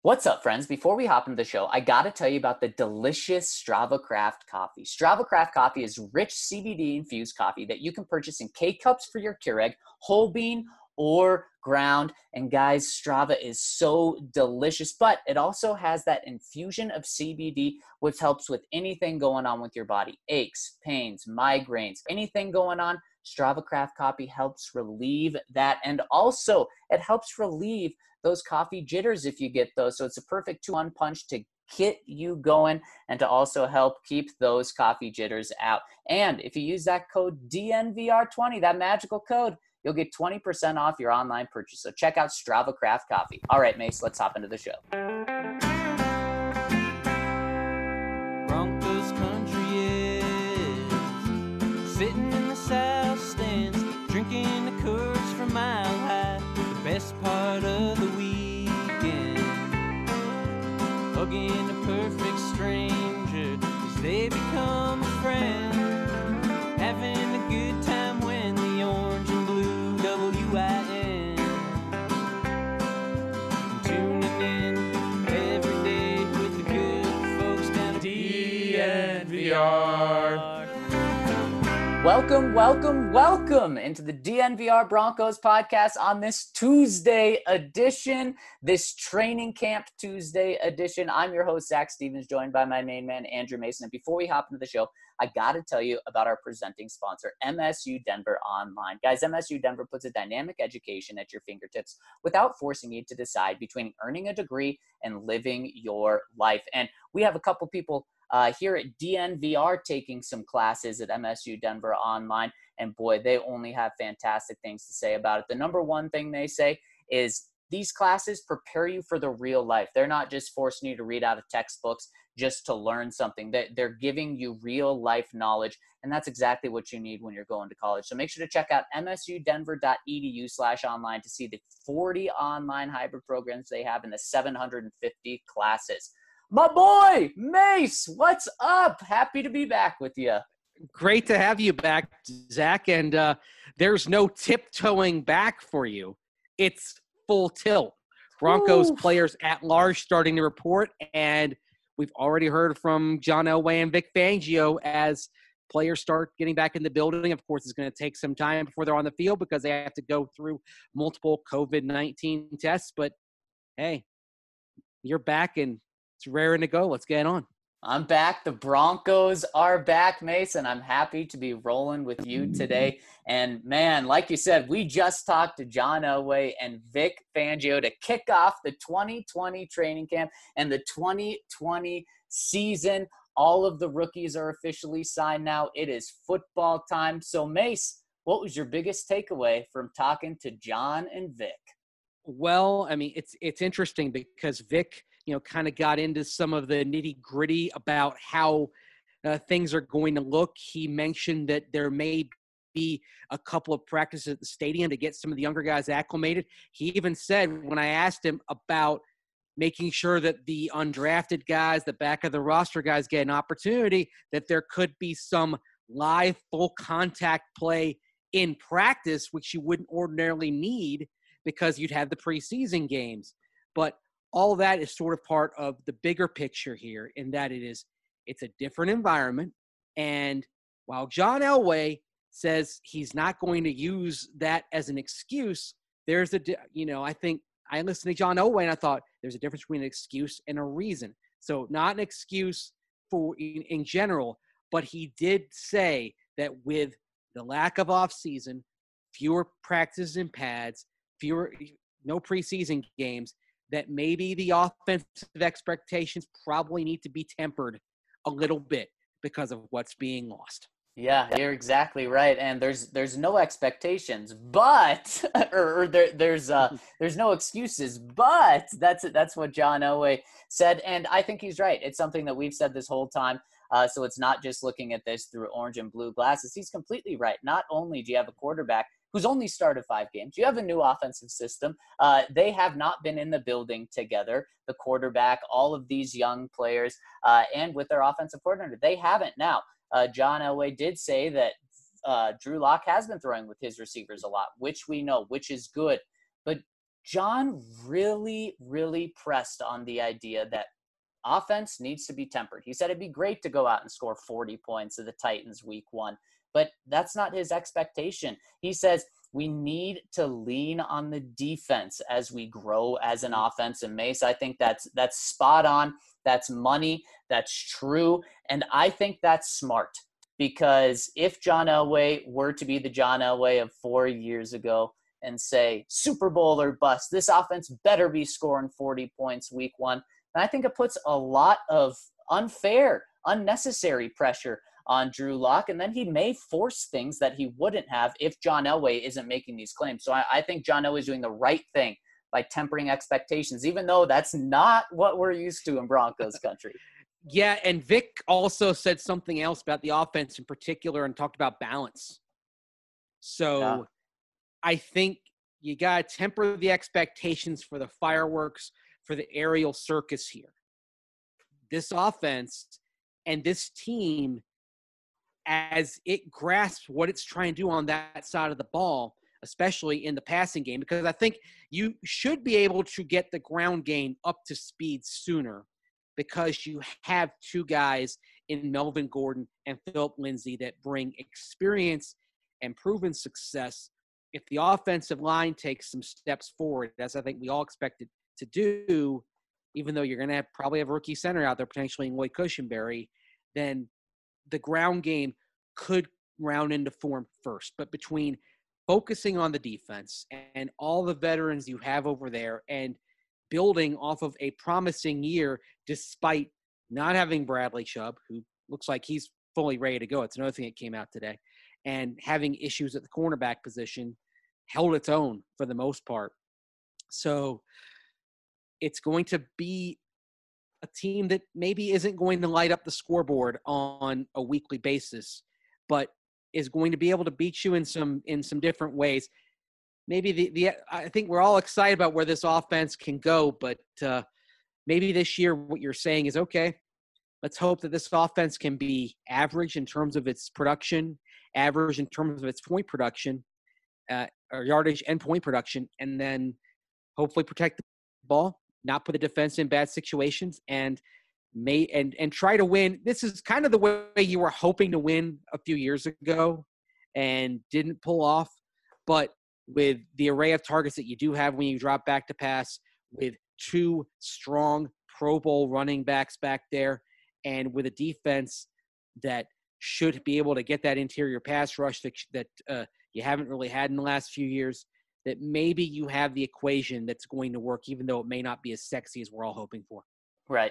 What's up, friends? Before we hop into the show, I got to tell you about the delicious Strava Craft coffee. Strava Craft coffee is rich CBD-infused coffee that you can purchase in K-Cups for your Keurig, whole bean, or ground. And guys, Strava is so delicious, but it also has that infusion of CBD, which helps with anything going on with your body. Aches, pains, migraines, anything going on. Strava Craft coffee helps relieve that. And also, it helps relieve those coffee jitters if you get those. So it's a perfect 2-1 punch to get you going and to also help keep those coffee jitters out. And if you use that code DNVR20, that magical code, you'll get 20% off your online purchase. So check out Strava Craft Coffee. All right, Mace, let's hop into the show. Broncos country is sitting in the south stands, drinking the Coors from Mile High. The best part of the weekend, hugging a perfect stranger as they become a friend, having a good time when the orange and blue WIN, tuning in every day with the good folks down at DNVR. Welcome into the DNVR Broncos podcast on this Tuesday edition, this training camp Tuesday edition. I'm your host, Zach Stevens, joined by my main man, Andrew Mason. And before we hop into the show, I got to tell you about our presenting sponsor, MSU Denver Online. Guys, MSU Denver puts a dynamic education at your fingertips without forcing you to decide between earning a degree and living your life. And we have a couple people here at DNVR taking some classes at MSU Denver Online, and boy, they only have fantastic things to say about it. The number one thing they say is these classes prepare you for the real life. They're not just forcing you to read out of textbooks just to learn something. They're giving you real life knowledge, and that's exactly what you need when you're going to college. So make sure to check out msudenver.edu/online to see the 40 online hybrid programs they have and the 750 classes. My boy, Mace, what's up? Happy to be back with you. Great to have you back, Zach. And there's no tiptoeing back for you. It's full tilt. Broncos players at large starting to report, and we've already heard from John Elway and Vic Fangio as players start getting back in the building. Of course, it's going to take some time before they're on the field because they have to go through multiple COVID-19 tests. But, hey, you're back and it's raring to go. Let's get on. I'm back. The Broncos are back, Mason. I'm happy to be rolling with you today. And, man, like you said, we just talked to John Elway and Vic Fangio to kick off the 2020 training camp and the 2020 season. All of the rookies are officially signed now. It is football time. So, Mace, what was your biggest takeaway from talking to John and Vic? Well, I mean, it's interesting because Vic – kind of got into some of the nitty gritty about how things are going to look. He mentioned that there may be a couple of practices at the stadium to get some of the younger guys acclimated. He even said, when I asked him about making sure that the undrafted guys, the back of the roster guys get an opportunity, that there could be some live full contact play in practice, which you wouldn't ordinarily need because you'd have the preseason games. But all that is sort of part of the bigger picture here in that it's a different environment. And while John Elway says he's not going to use that as an excuse, there's I think I listened to John Elway and I thought there's a difference between an excuse and a reason. So not an excuse for in general, but he did say that with the lack of off season, fewer practices and pads, no preseason games, that maybe the offensive expectations probably need to be tempered a little bit because of what's being lost. Yeah, you're exactly right. And there's no expectations, but there's no excuses, but that's what John Elway said. And I think he's right. It's something that we've said this whole time. So it's not just looking at this through orange and blue glasses. He's completely right. Not only do you have a quarterback who's only started 5 games, you have a new offensive system. They have not been in the building together, the quarterback, all of these young players, and with their offensive coordinator. They haven't now. John Elway did say that Drew Lock has been throwing with his receivers a lot, which we know, which is good. But John really, really pressed on the idea that offense needs to be tempered. He said it'd be great to go out and score 40 points to the Titans week 1, but that's not his expectation. He says we need to lean on the defense as we grow as an offense. And Mace, I think that's spot on. That's money. That's true. And I think that's smart, because if John Elway were to be the John Elway of 4 years ago and say Super Bowl or bust, this offense better be scoring 40 points week 1, and I think it puts a lot of unfair, unnecessary pressure on Drew Lock, and then he may force things that he wouldn't have if John Elway isn't making these claims. So I think John Elway is doing the right thing by tempering expectations, even though that's not what we're used to in Broncos country. Yeah, and Vic also said something else about the offense in particular and talked about balance. So yeah. I think you got to temper the expectations for the fireworks, for the aerial circus here. This offense and this team, as it grasps what it's trying to do on that side of the ball, especially in the passing game, because I think you should be able to get the ground game up to speed sooner, because you have two guys in Melvin Gordon and Philip Lindsay that bring experience and proven success. If the offensive line takes some steps forward, as I think we all expected to do, even though you're going to probably have a rookie center out there, potentially in Lloyd Cushenberry, then the ground game could round into form first. But between focusing on the defense and all the veterans you have over there and building off of a promising year, despite not having Bradley Chubb, who looks like he's fully ready to go. It's another thing that came out today. And having issues at the cornerback position, held its own for the most part. So it's going to be a team that maybe isn't going to light up the scoreboard on a weekly basis, but is going to be able to beat you in some different ways. Maybe I think we're all excited about where this offense can go, but maybe this year what you're saying is, okay, let's hope that this offense can be average in terms of its production, average in terms of its point production, or yardage and point production, and then hopefully protect the ball, not put the defense in bad situations, and try to win. This is kind of the way you were hoping to win a few years ago and didn't pull off. But with the array of targets that you do have when you drop back to pass, with two strong Pro Bowl running backs back there, and with a defense that should be able to get that interior pass rush that you haven't really had in the last few years, that maybe you have the equation that's going to work, even though it may not be as sexy as we're all hoping for. Right.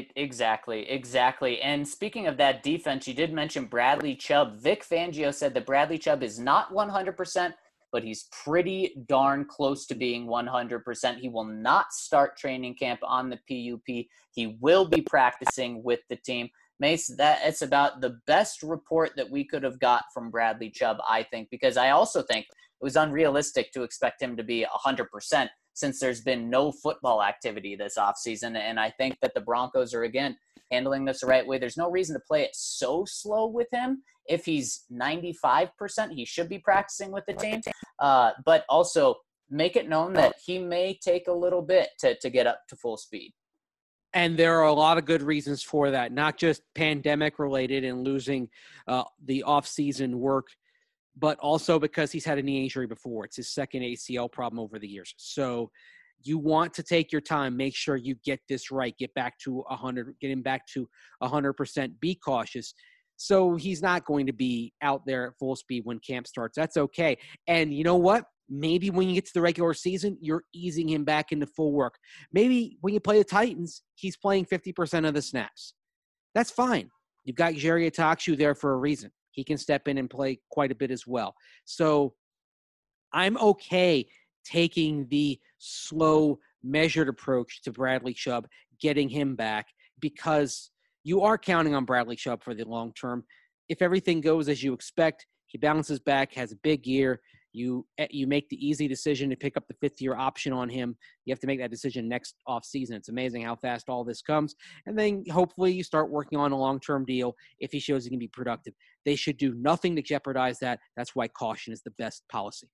Exactly. And speaking of that defense, you did mention Bradley Chubb. Vic Fangio said that Bradley Chubb is not 100%, but he's pretty darn close to being 100%. He will not start training camp on the PUP. He will be practicing with the team. Mace, it's about the best report that we could have got from Bradley Chubb, I think, because I also think it was unrealistic to expect him to be 100% since there's been no football activity this offseason. And I think that the Broncos are, again, handling this the right way. There's no reason to play it so slow with him. If he's 95%, he should be practicing with the team. But also make it known that he may take a little bit to get up to full speed. And there are a lot of good reasons for that, not just pandemic related and losing the off-season work, but also because he's had a knee injury before. It's his second ACL problem over the years. So you want to take your time, make sure you get this right, get him back to 100%, be cautious. So he's not going to be out there at full speed when camp starts. That's okay. And you know what? Maybe when you get to the regular season, you're easing him back into full work. Maybe when you play the Titans, he's playing 50% of the snaps. That's fine. You've got Jerry Atakshu there for a reason. He can step in and play quite a bit as well. So I'm okay taking the slow, measured approach to Bradley Chubb, getting him back, because you are counting on Bradley Chubb for the long term. If everything goes as you expect, he bounces back, has a big year. You make the easy decision to pick up the fifth-year option on him. You have to make that decision next offseason. It's amazing how fast all this comes. And then hopefully you start working on a long-term deal if he shows he can be productive. They should do nothing to jeopardize that. That's why caution is the best policy.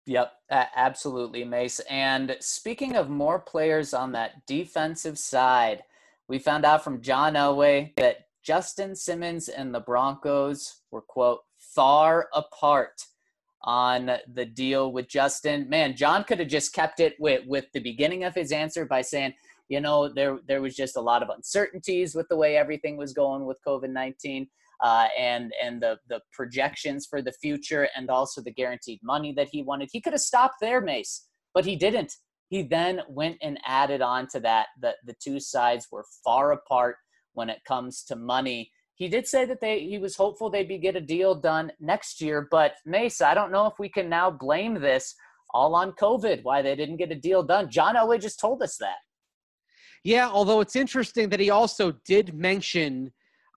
Yep, absolutely, Mace. And speaking of more players on that defensive side, we found out from John Elway that Justin Simmons and the Broncos were, quote, far apart on the deal with Justin. Man, John could have just kept it with the beginning of his answer by saying, there was just a lot of uncertainties with the way everything was going with COVID-19. And the projections for the future and also the guaranteed money that he wanted. He could have stopped there, Mace, but he didn't. He then went and added on to that the two sides were far apart when it comes to money. He did say that he was hopeful they'd get a deal done next year, but Mace, I don't know if we can now blame this all on COVID, why they didn't get a deal done. John Elway just told us that. Yeah, although it's interesting that he also did mention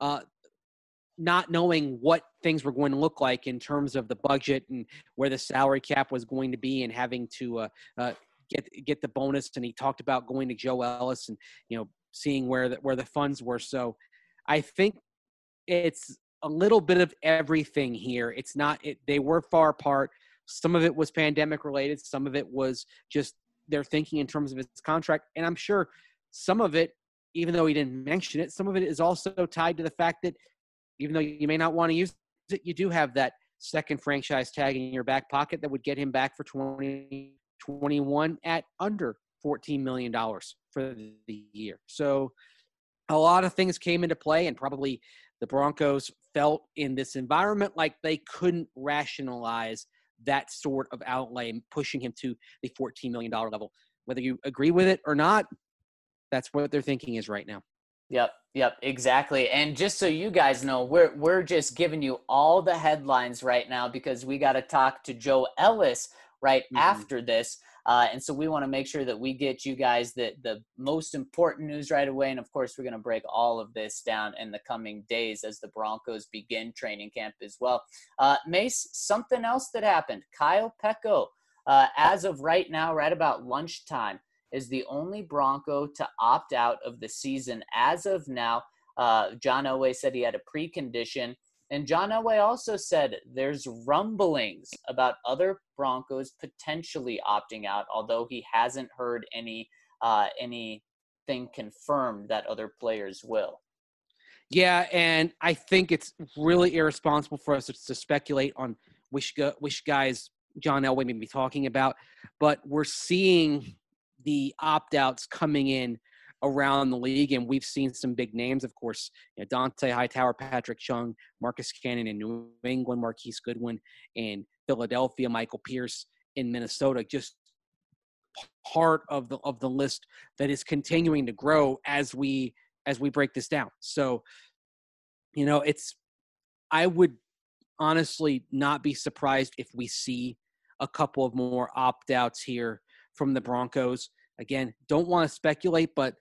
not knowing what things were going to look like in terms of the budget and where the salary cap was going to be and having to get the bonus. And he talked about going to Joe Ellis and, seeing where the funds were. So I think it's a little bit of everything here. It's not, they were far apart. Some of it was pandemic related. Some of it was just their thinking in terms of his contract. And I'm sure some of it, even though he didn't mention it, some of it is also tied to the fact that even though you may not want to use it, you do have that second franchise tag in your back pocket that would get him back for 2021 at under $14 million for the year. So a lot of things came into play, and probably the Broncos felt in this environment like they couldn't rationalize that sort of outlay, pushing him to the $14 million level. Whether you agree with it or not, that's what their thinking is right now. Yep, exactly. And just so you guys know, we're just giving you all the headlines right now because we got to talk to Joe Ellis right after this. And so we want to make sure that we get you guys the most important news right away. And of course, we're going to break all of this down in the coming days as the Broncos begin training camp as well. Mace, something else that happened. Kyle Peko, as of right now, right about lunchtime, is the only Bronco to opt out of the season as of now. John Elway said he had a precondition. And John Elway also said there's rumblings about other Broncos potentially opting out, although he hasn't heard anything confirmed that other players will. Yeah, and I think it's really irresponsible for us to speculate on which guys John Elway may be talking about, but we're seeing the opt-outs coming in around the league, and we've seen some big names, of course, Dante Hightower, Patrick Chung, Marcus Cannon in New England, Marquise Goodwin in Philadelphia, Michael Pierce in Minnesota, just part of the list that is continuing to grow as we break this down. So, I would honestly not be surprised if we see a couple of more opt-outs here from the Broncos. Again, don't want to speculate, but,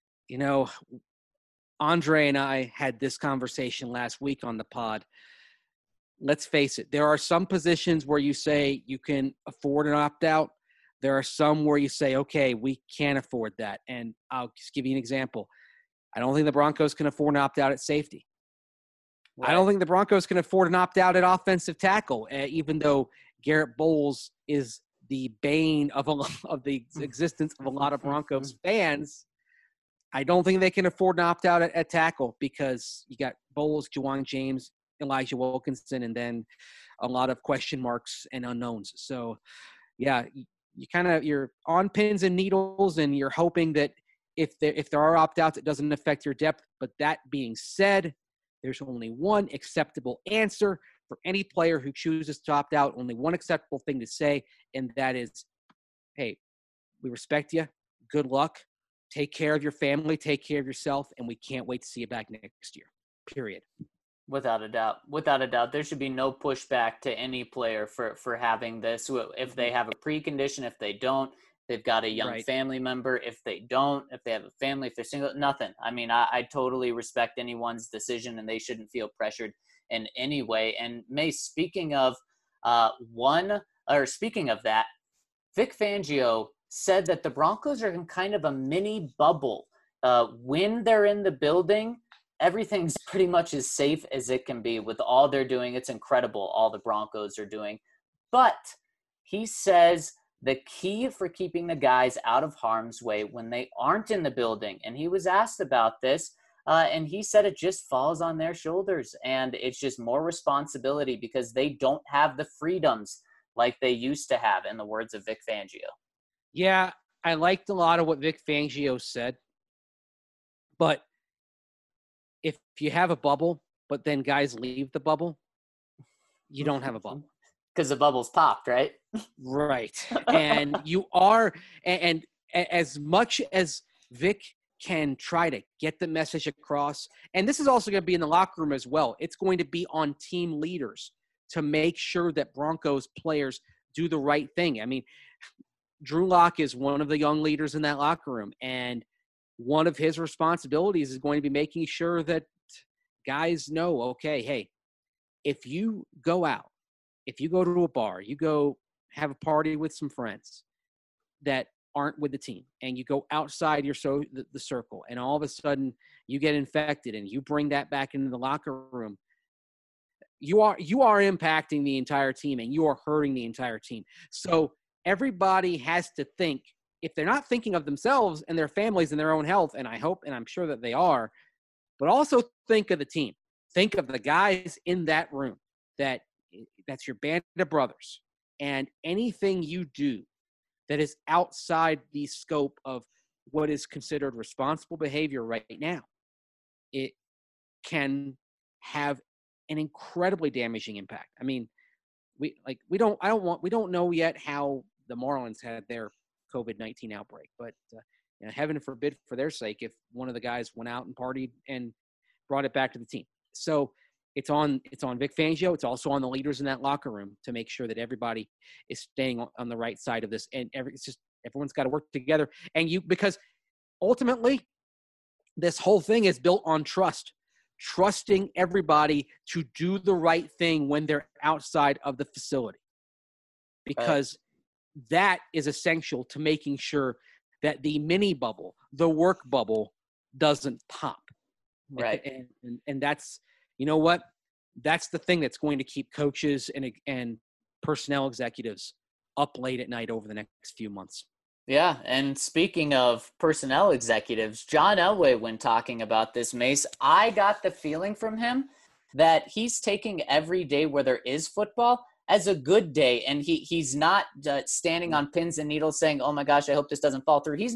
Andre and I had this conversation last week on the pod. Let's face it. There are some positions where you say you can afford an opt-out. There are some where you say, okay, we can't afford that. And I'll just give you an example. I don't think the Broncos can afford an opt-out at safety. Right. I don't think the Broncos can afford an opt-out at offensive tackle, even though Garrett Bowles is the bane of the existence of a lot of Broncos fans. I don't think they can afford an opt-out at tackle because you got Bowles, Juwan James, Elijah Wilkinson, and then a lot of question marks and unknowns. So, yeah, you're on pins and needles, and you're hoping that if there are opt-outs, it doesn't affect your depth. But that being said, there's only one acceptable answer for any player who chooses to opt out, only one acceptable thing to say, and that is, hey, we respect you. Good luck. Take care of your family. Take care of yourself, and we can't wait to see you back next year, period. Without a doubt. There should be no pushback to any player for having this. If they have a precondition, if they don't, they've got a young family member. If they don't, if they have a family, if they're single, nothing. I mean, I totally respect anyone's decision, and they shouldn't feel pressured in any way. And Mace, speaking of that, Vic Fangio said that the Broncos are in kind of a mini bubble. When they're in the building, everything's pretty much as safe as it can be with all they're doing. It's incredible all the Broncos are doing. But He says the key for keeping the guys out of harm's way when they aren't in the building, and he was asked about this, and he said it just falls on their shoulders, and it's just more responsibility because they don't have the freedoms like they used to have, in the words of Vic Fangio. Yeah, I liked a lot of what Vic Fangio said, but if you have a bubble, but then guys leave the bubble, you don't have a bubble. Because the bubble's popped, right? Right. And you are, and as much as Vic can try to get the message across, and this is also going to be in the locker room as well, it's going to be on team leaders to make sure that Broncos players do the right thing. I mean, Drew Lock is one of the young leaders in that locker room, and one of his responsibilities is going to be making sure that guys know, okay, hey, if you go out, if you go to a bar, you go have a party with some friends that aren't with the team, and you go outside the circle, and all of a sudden you get infected and you bring that back into the locker room, you are impacting the entire team, and you are hurting the entire team. So everybody has to think, if they're not thinking of themselves and their families and their own health, and I hope and I'm sure that they are, but also think of the team. Think of the guys in that room that's your band of brothers, and anything you do that is outside the scope of what is considered responsible behavior right now, it can have an incredibly damaging impact. I mean, we don't know yet how the Marlins had their COVID-19 outbreak, but heaven forbid for their sake if one of the guys went out and partied and brought it back to the team. So it's on Vic Fangio. It's also on the leaders in that locker room to make sure that everybody is staying on the right side of this. And everyone's got to work together. And because ultimately this whole thing is built on trusting everybody to do the right thing when they're outside of the facility, because that is essential to making sure that the mini bubble, the work bubble, doesn't pop. Right. And that's, you know what? That's the thing that's going to keep coaches and personnel executives up late at night over the next few months. Yeah, and speaking of personnel executives, John Elway, when talking about this, Mace, I got the feeling from him that he's taking every day where there is football as a good day, and he's not standing on pins and needles saying, oh my gosh, I hope this doesn't fall through. He's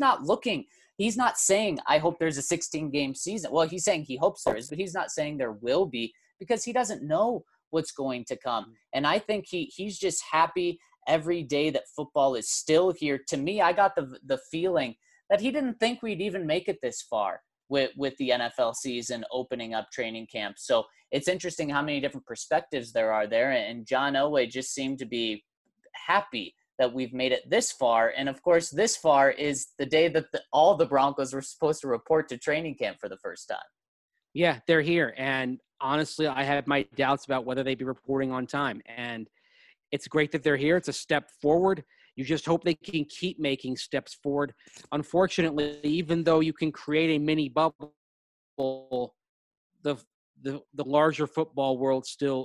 not saying, I hope there's a 16-game season. Well, he's saying he hopes there is, but he's not saying there will be, because he doesn't know what's going to come. And I think he's just happy every day that football is still here. To me, I got the feeling that he didn't think we'd even make it this far with the NFL season opening up training camp. So it's interesting how many different perspectives there are there. And John Elway just seemed to be happy that we've made it this far. And of course, this far is the day that all the Broncos were supposed to report to training camp for the first time. Yeah, they're here. And honestly, I had my doubts about whether they'd be reporting on time. And it's great that they're here. It's a step forward. You just hope they can keep making steps forward. Unfortunately, even though you can create a mini bubble, the larger football world still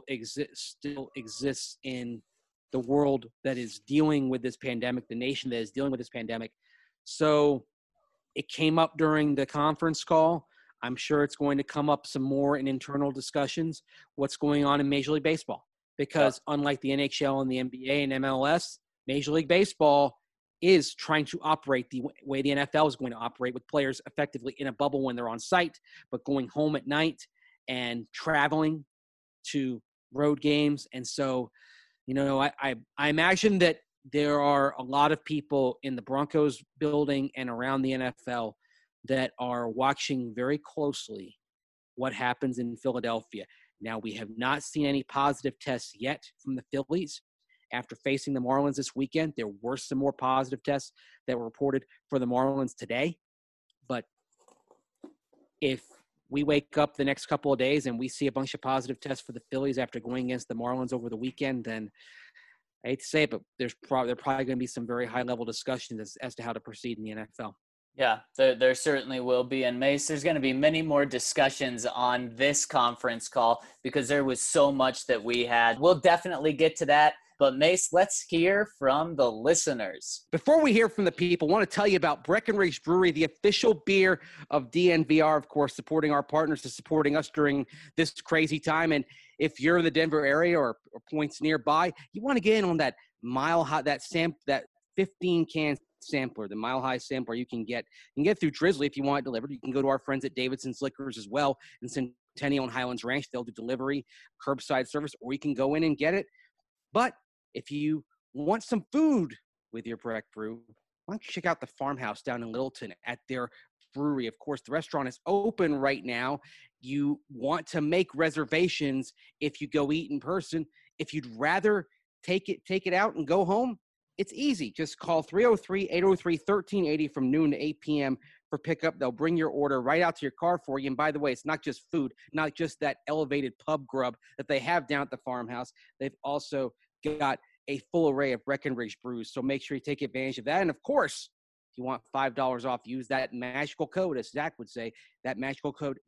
exists in the world that is dealing with this pandemic, the nation that is dealing with this pandemic. So it came up during the conference call. I'm sure it's going to come up some more in internal discussions, what's going on in Major League Baseball. Because unlike the NHL and the NBA and MLS, Major League Baseball is trying to operate the way the NFL is going to operate, with players effectively in a bubble when they're on site, but going home at night and traveling to road games. And so, I imagine that there are a lot of people in the Broncos building and around the NFL that are watching very closely what happens in Philadelphia. Now, we have not seen any positive tests yet from the Phillies after facing the Marlins this weekend. There were some more positive tests that were reported for the Marlins today. But if we wake up the next couple of days and we see a bunch of positive tests for the Phillies after going against the Marlins over the weekend, then I hate to say it, but there probably going to be some very high-level discussions as to how to proceed in the NFL. Yeah, there certainly will be. And Mace, there's going to be many more discussions on this conference call because there was so much that we had. We'll definitely get to that But Mace, let's hear from the listeners. Before we hear from the people, I want to tell you about Breckenridge Brewery, the official beer of DNVR, of course, supporting our partners and supporting us during this crazy time. And if you're in the Denver area or points nearby, you want to get in on that Mile High, that 15-can sampler, the Mile High sampler you can get through Drizzly if you want it delivered. You can go to our friends at Davidson's Liquors as well in Centennial and Highlands Ranch. They'll do delivery, curbside service, or you can go in and get it. But if you want some food with your Breck Brew, why don't you check out the Farmhouse down in Littleton at their brewery. Of course, the restaurant is open right now. You want to make reservations if you go eat in person. If you'd rather take it out and go home, it's easy. Just call 303-803-1380 from noon to 8 p.m. for pickup. They'll bring your order right out to your car for you. And by the way, it's not just food, not just that elevated pub grub that they have down at the Farmhouse. They've also got a full array of Breckenridge brews. So make sure you take advantage of that. And of course, if you want $5 off, use that magical code, as Zach would say, that magical code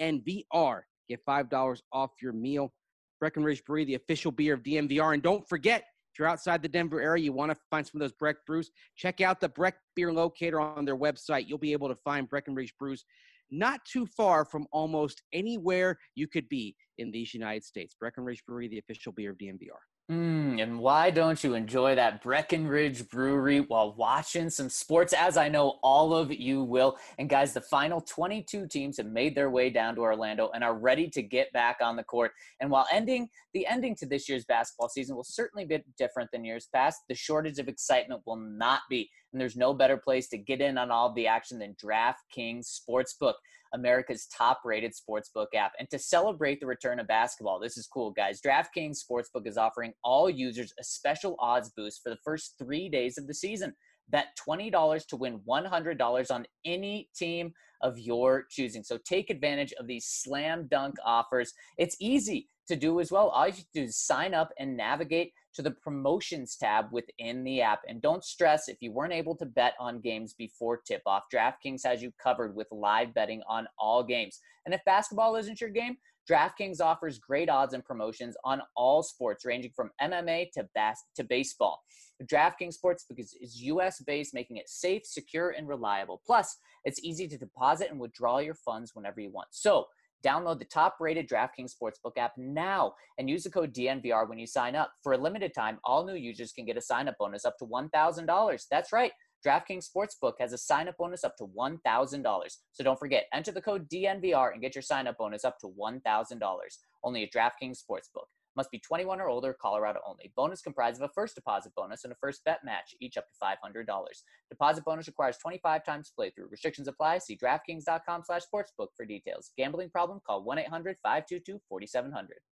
DNVR. Get $5 off your meal. Breckenridge Brewery, the official beer of DNVR. And don't forget, if you're outside the Denver area, you want to find some of those Breck brews, check out the Breck Beer Locator on their website. You'll be able to find Breckenridge brews not too far from almost anywhere you could be in these United States. Breckenridge Brewery, the official beer of DNVR. And why don't you enjoy that Breckenridge Brewery while watching some sports, as I know all of you will. And guys, the final 22 teams have made their way down to Orlando and are ready to get back on the court. And while the ending to this year's basketball season will certainly be different than years past, the shortage of excitement will not be. And there's no better place to get in on all of the action than DraftKings Sportsbook, America's top-rated sportsbook app. And to celebrate the return of basketball, this is cool, guys. DraftKings Sportsbook is offering all users a special odds boost for the first 3 days of the season. Bet $20 to win $100 on any team of your choosing. So take advantage of these slam dunk offers. It's easy to do as well. All you have to do is sign up and navigate to the promotions tab within the app. And don't stress if you weren't able to bet on games before tip-off. DraftKings has you covered with live betting on all games. And if basketball isn't your game, DraftKings offers great odds and promotions on all sports, ranging from MMA to baseball. DraftKings Sportsbook is U.S.-based, making it safe, secure, and reliable. Plus, it's easy to deposit and withdraw your funds whenever you want. So, download the top-rated DraftKings Sportsbook app now and use the code DNVR when you sign up. For a limited time, all new users can get a sign-up bonus up to $1,000. That's right. DraftKings Sportsbook has a sign-up bonus up to $1,000. So don't forget, enter the code DNVR and get your sign-up bonus up to $1,000. Only at DraftKings Sportsbook. Must be 21 or older, Colorado only. Bonus comprised of a first deposit bonus and a first bet match, each up to $500. Deposit bonus requires 25 times playthrough. Restrictions apply. See DraftKings.com/sportsbook for details. Gambling problem? Call 1-800-522-4700.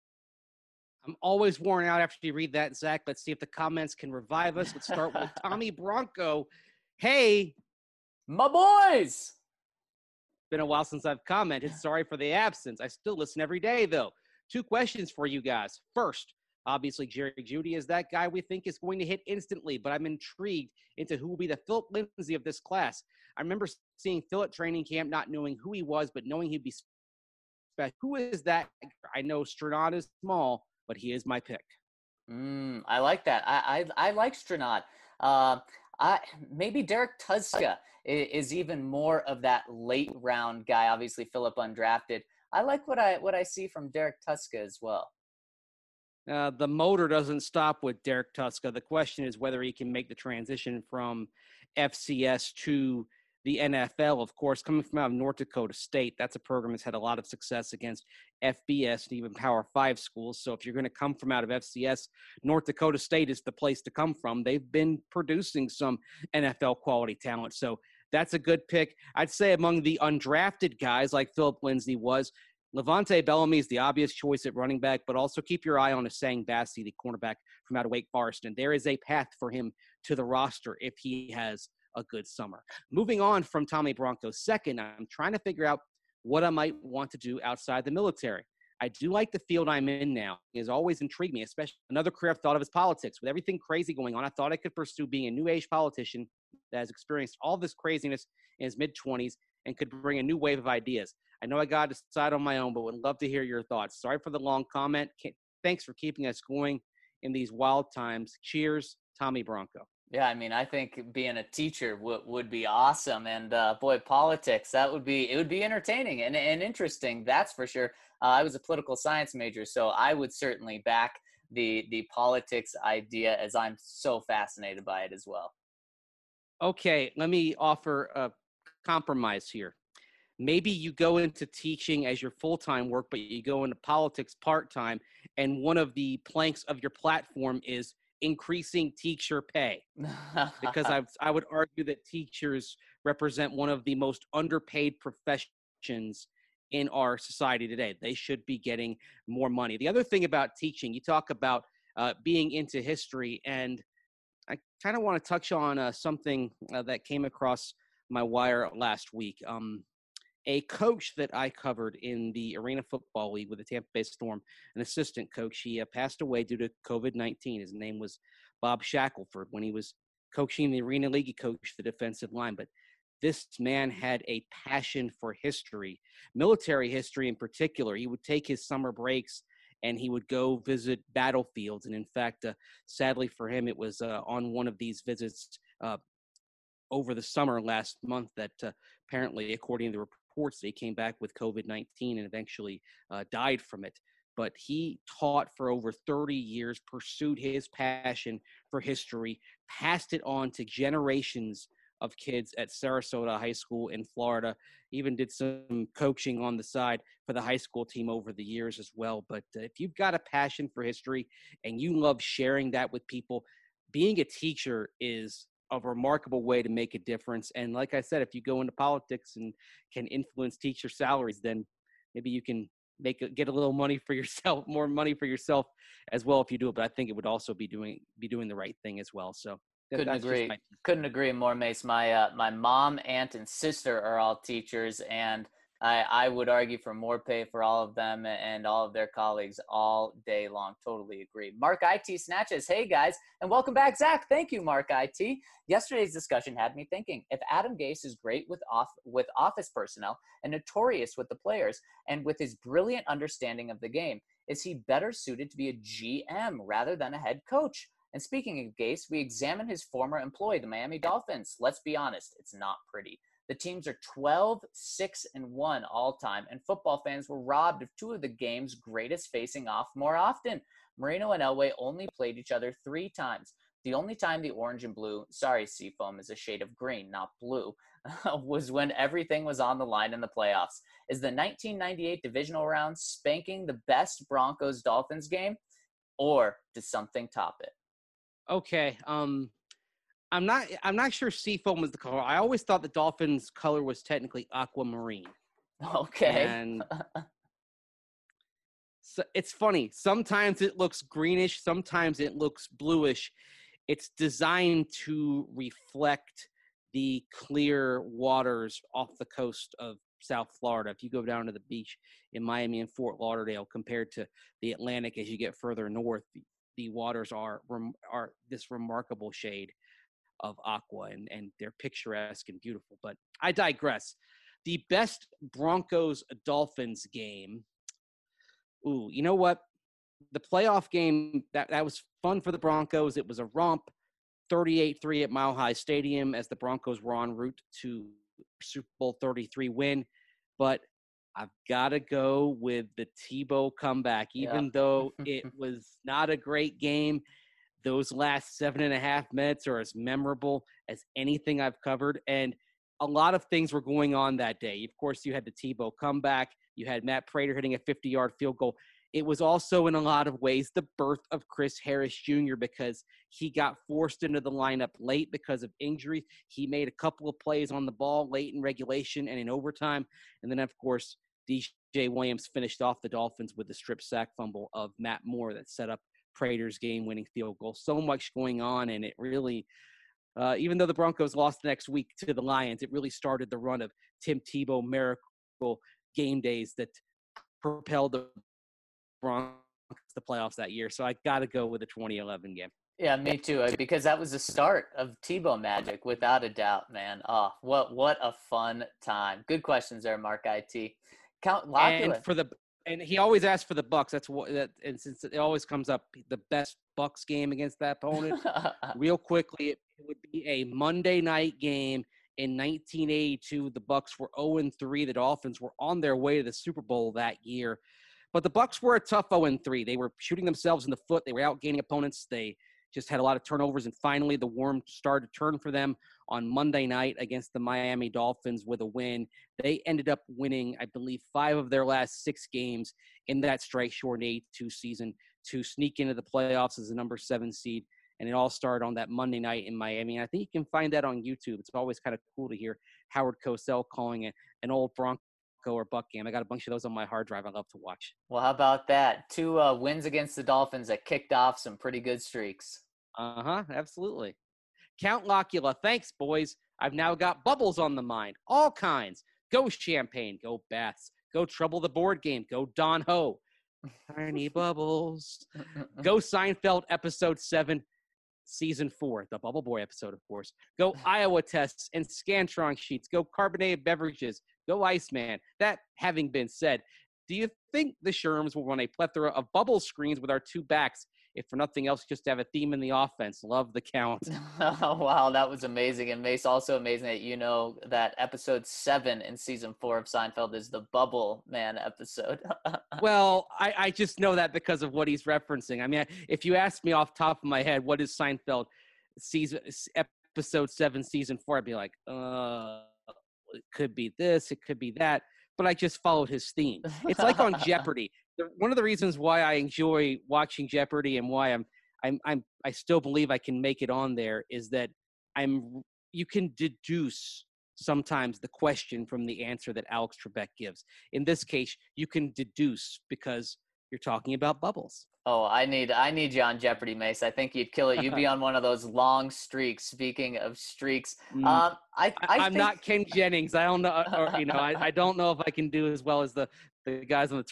I'm always worn out after you read that, Zach. Let's see if the comments can revive us. Let's start with Tommy Bronco. Hey, my boys! Been a while since I've commented. Sorry for the absence. I still listen every day, though. 2 questions for you guys. First, obviously, Jerry Jeudy is that guy we think is going to hit instantly, but I'm intrigued into who will be the Philip Lindsay of this class. I remember seeing Phil at training camp, not knowing who he was, but knowing he'd be special. Who is that? I know Stranad is small, but he is my pick. I like that. I like Stranad. Maybe Derek Tuszka is even more of that late round guy. Obviously, Philip undrafted. I like what I see from Derek Tuszka as well. The motor doesn't stop with Derek Tuszka. The question is whether he can make the transition from FCS to the NFL. Of course, coming from out of North Dakota State, that's a program that's had a lot of success against FBS and even Power 5 schools. So if you're going to come from out of FCS, North Dakota State is the place to come from. They've been producing some NFL quality talent. So that's a good pick. I'd say among the undrafted guys like Philip Lindsay was, Levante Bellamy is the obvious choice at running back, but also keep your eye on Essang Bassey, the cornerback from out of Wake Forest. And there is a path for him to the roster if he has a good summer. Moving on from Tommy Bronco. Second, I'm trying to figure out what I might want to do outside the military. I do like the field I'm in now. It has always intrigued me, especially another career I've thought of is politics. With everything crazy going on, I thought I could pursue being a new age politician that has experienced all this craziness in his mid-20s and could bring a new wave of ideas. I know I got to decide on my own, but would love to hear your thoughts. Sorry for the long comment. Thanks for keeping us going in these wild times. Cheers, Tommy Bronco. Yeah, I mean, I think being a teacher would be awesome, and boy, politics, it would be entertaining and interesting. That's for sure. I was a political science major, so I would certainly back the politics idea, as I'm so fascinated by it as well. Okay, let me offer a compromise here. Maybe you go into teaching as your full-time work, but you go into politics part-time, and one of the planks of your platform is increasing teacher pay. Because I would argue that teachers represent one of the most underpaid professions in our society today. They should be getting more money. The other thing about teaching, you talk about being into history, and I kind of want to touch on something that came across my wire last week. A coach that I covered in the Arena Football League with the Tampa Bay Storm, an assistant coach, he passed away due to COVID-19. His name was Bob Shackelford. When he was coaching the Arena League, he coached the defensive line. But this man had a passion for history, military history in particular. He would take his summer breaks and he would go visit battlefields. And in fact, sadly for him, it was on one of these visits over the summer last month that apparently, according to the reports, they came back with COVID-19 and eventually died from it. But he taught for over 30 years, pursued his passion for history, passed it on to generations of kids at Sarasota High School in Florida, even did some coaching on the side for the high school team over the years as well. But if you've got a passion for history and you love sharing that with people, being a teacher is a remarkable way to make a difference. And like I said, if you go into politics and can influence teacher salaries, then maybe you can get a little money for yourself, more money for yourself as well if you do it. But I think it would also be doing the right thing as well. So Couldn't agree more, Mace. My mom, aunt, and sister are all teachers, and I would argue for more pay for all of them and all of their colleagues all day long. Totally agree. Mark IT Snatches. Hey, guys, and welcome back, Zach. Thank you, Mark IT. Yesterday's discussion had me thinking, if Adam Gase is great with office personnel and notorious with the players and with his brilliant understanding of the game, is he better suited to be a GM rather than a head coach? And speaking of Gase, we examined his former employee, the Miami Dolphins. Let's be honest, it's not pretty. The teams are 12-6-1 all time, and football fans were robbed of two of the game's greatest facing off more often. Marino and Elway only played each other 3 times. The only time the orange and blue, sorry, Seafoam is a shade of green, not blue, was when everything was on the line in the playoffs. Is the 1998 divisional round spanking the best Broncos-Dolphins game, or does something top it? Okay. I'm not sure seafoam was the color. I always thought the Dolphins' color was technically aquamarine. Okay. And so it's funny. Sometimes it looks greenish. Sometimes it looks bluish. It's designed to reflect the clear waters off the coast of South Florida. If you go down to the beach in Miami and Fort Lauderdale compared to the Atlantic as you get further north, the waters are this remarkable shade of aqua, and they're picturesque and beautiful. But I digress. The best Broncos-Dolphins game. Ooh, you know what? The playoff game, that was fun for the Broncos. It was a romp, 38-3 at Mile High Stadium as the Broncos were en route to Super Bowl 33 win. But I've got to go with the Tebow comeback. Even though it was not a great game, those last 7.5 minutes are as memorable as anything I've covered. And a lot of things were going on that day. Of course, you had the Tebow comeback. You had Matt Prater hitting a 50-yard field goal. It was also, in a lot of ways, the birth of Chris Harris Jr. because he got forced into the lineup late because of injuries. He made a couple of plays on the ball late in regulation and in overtime. And then, of course, DJ Williams finished off the Dolphins with the strip sack fumble of Matt Moore that set up Prater's game-winning field goal. So much going on, and it really, even though the Broncos lost the next week to the Lions, it really started the run of Tim Tebow miracle game days that propelled the Broncos to the playoffs that year. So I got to go with the 2011 game. Yeah, me too, because that was the start of Tebow magic, without a doubt, man. Oh, what a fun time. Good questions there, Mark IT. And And he always asks for the Bucks. That's what and since it always comes up, the best Bucks game against that opponent. Real quickly, it would be a Monday night game in 1982. The Bucks were 0-3. The Dolphins were on their way to the Super Bowl that year. But the Bucks were a tough 0-3. They were shooting themselves in the foot. They were outgaining opponents. They just had a lot of turnovers, and finally the worm started to turn for them on Monday night against the Miami Dolphins with a win. They ended up winning, I believe, 5 of their last 6 games in that strike-shortened 82 season to sneak into the playoffs as the number 7 seed. And it all started on that Monday night in Miami. And I think you can find that on YouTube. It's always kind of cool to hear Howard Cosell calling it an old Bronco or Buck game. I got a bunch of those on my hard drive I love to watch. Well, how about that? 2 wins against the Dolphins that kicked off some pretty good streaks. Absolutely. Count Locula, thanks, boys. I've now got bubbles on the mind. All kinds. Go Champagne. Go Baths. Go Trouble the Board Game. Go Don Ho. Tiny Bubbles. Go Seinfeld, Episode 7, Season 4. The Bubble Boy episode, of course. Go Iowa Tests and Scantron Sheets. Go Carbonated Beverages. Go Iceman. That having been said, do you think the Sherms will run a plethora of bubble screens with our 2 backs, if for nothing else, just to have a theme in the offense? Love the count. Oh, wow, that was amazing. And Mace, also amazing that you know that episode 7 in season 4 of Seinfeld is the Bubble Man episode. Well, I just know that because of what he's referencing. I mean, if you asked me off the top of my head, what is Seinfeld episode 7, season 4, I'd be like, it could be this, it could be that. But I just followed his theme. It's like on Jeopardy. One of the reasons why I enjoy watching Jeopardy and why I still believe I can make it on there is that you can deduce sometimes the question from the answer that Alex Trebek gives. In this case, you can deduce because you're talking about bubbles. Oh, I need you on Jeopardy, Mace. I think you'd kill it. You'd be on one of those long streaks. Speaking of streaks, I'm think... not Ken Jennings. I don't know, I don't know if I can do as well as the guys on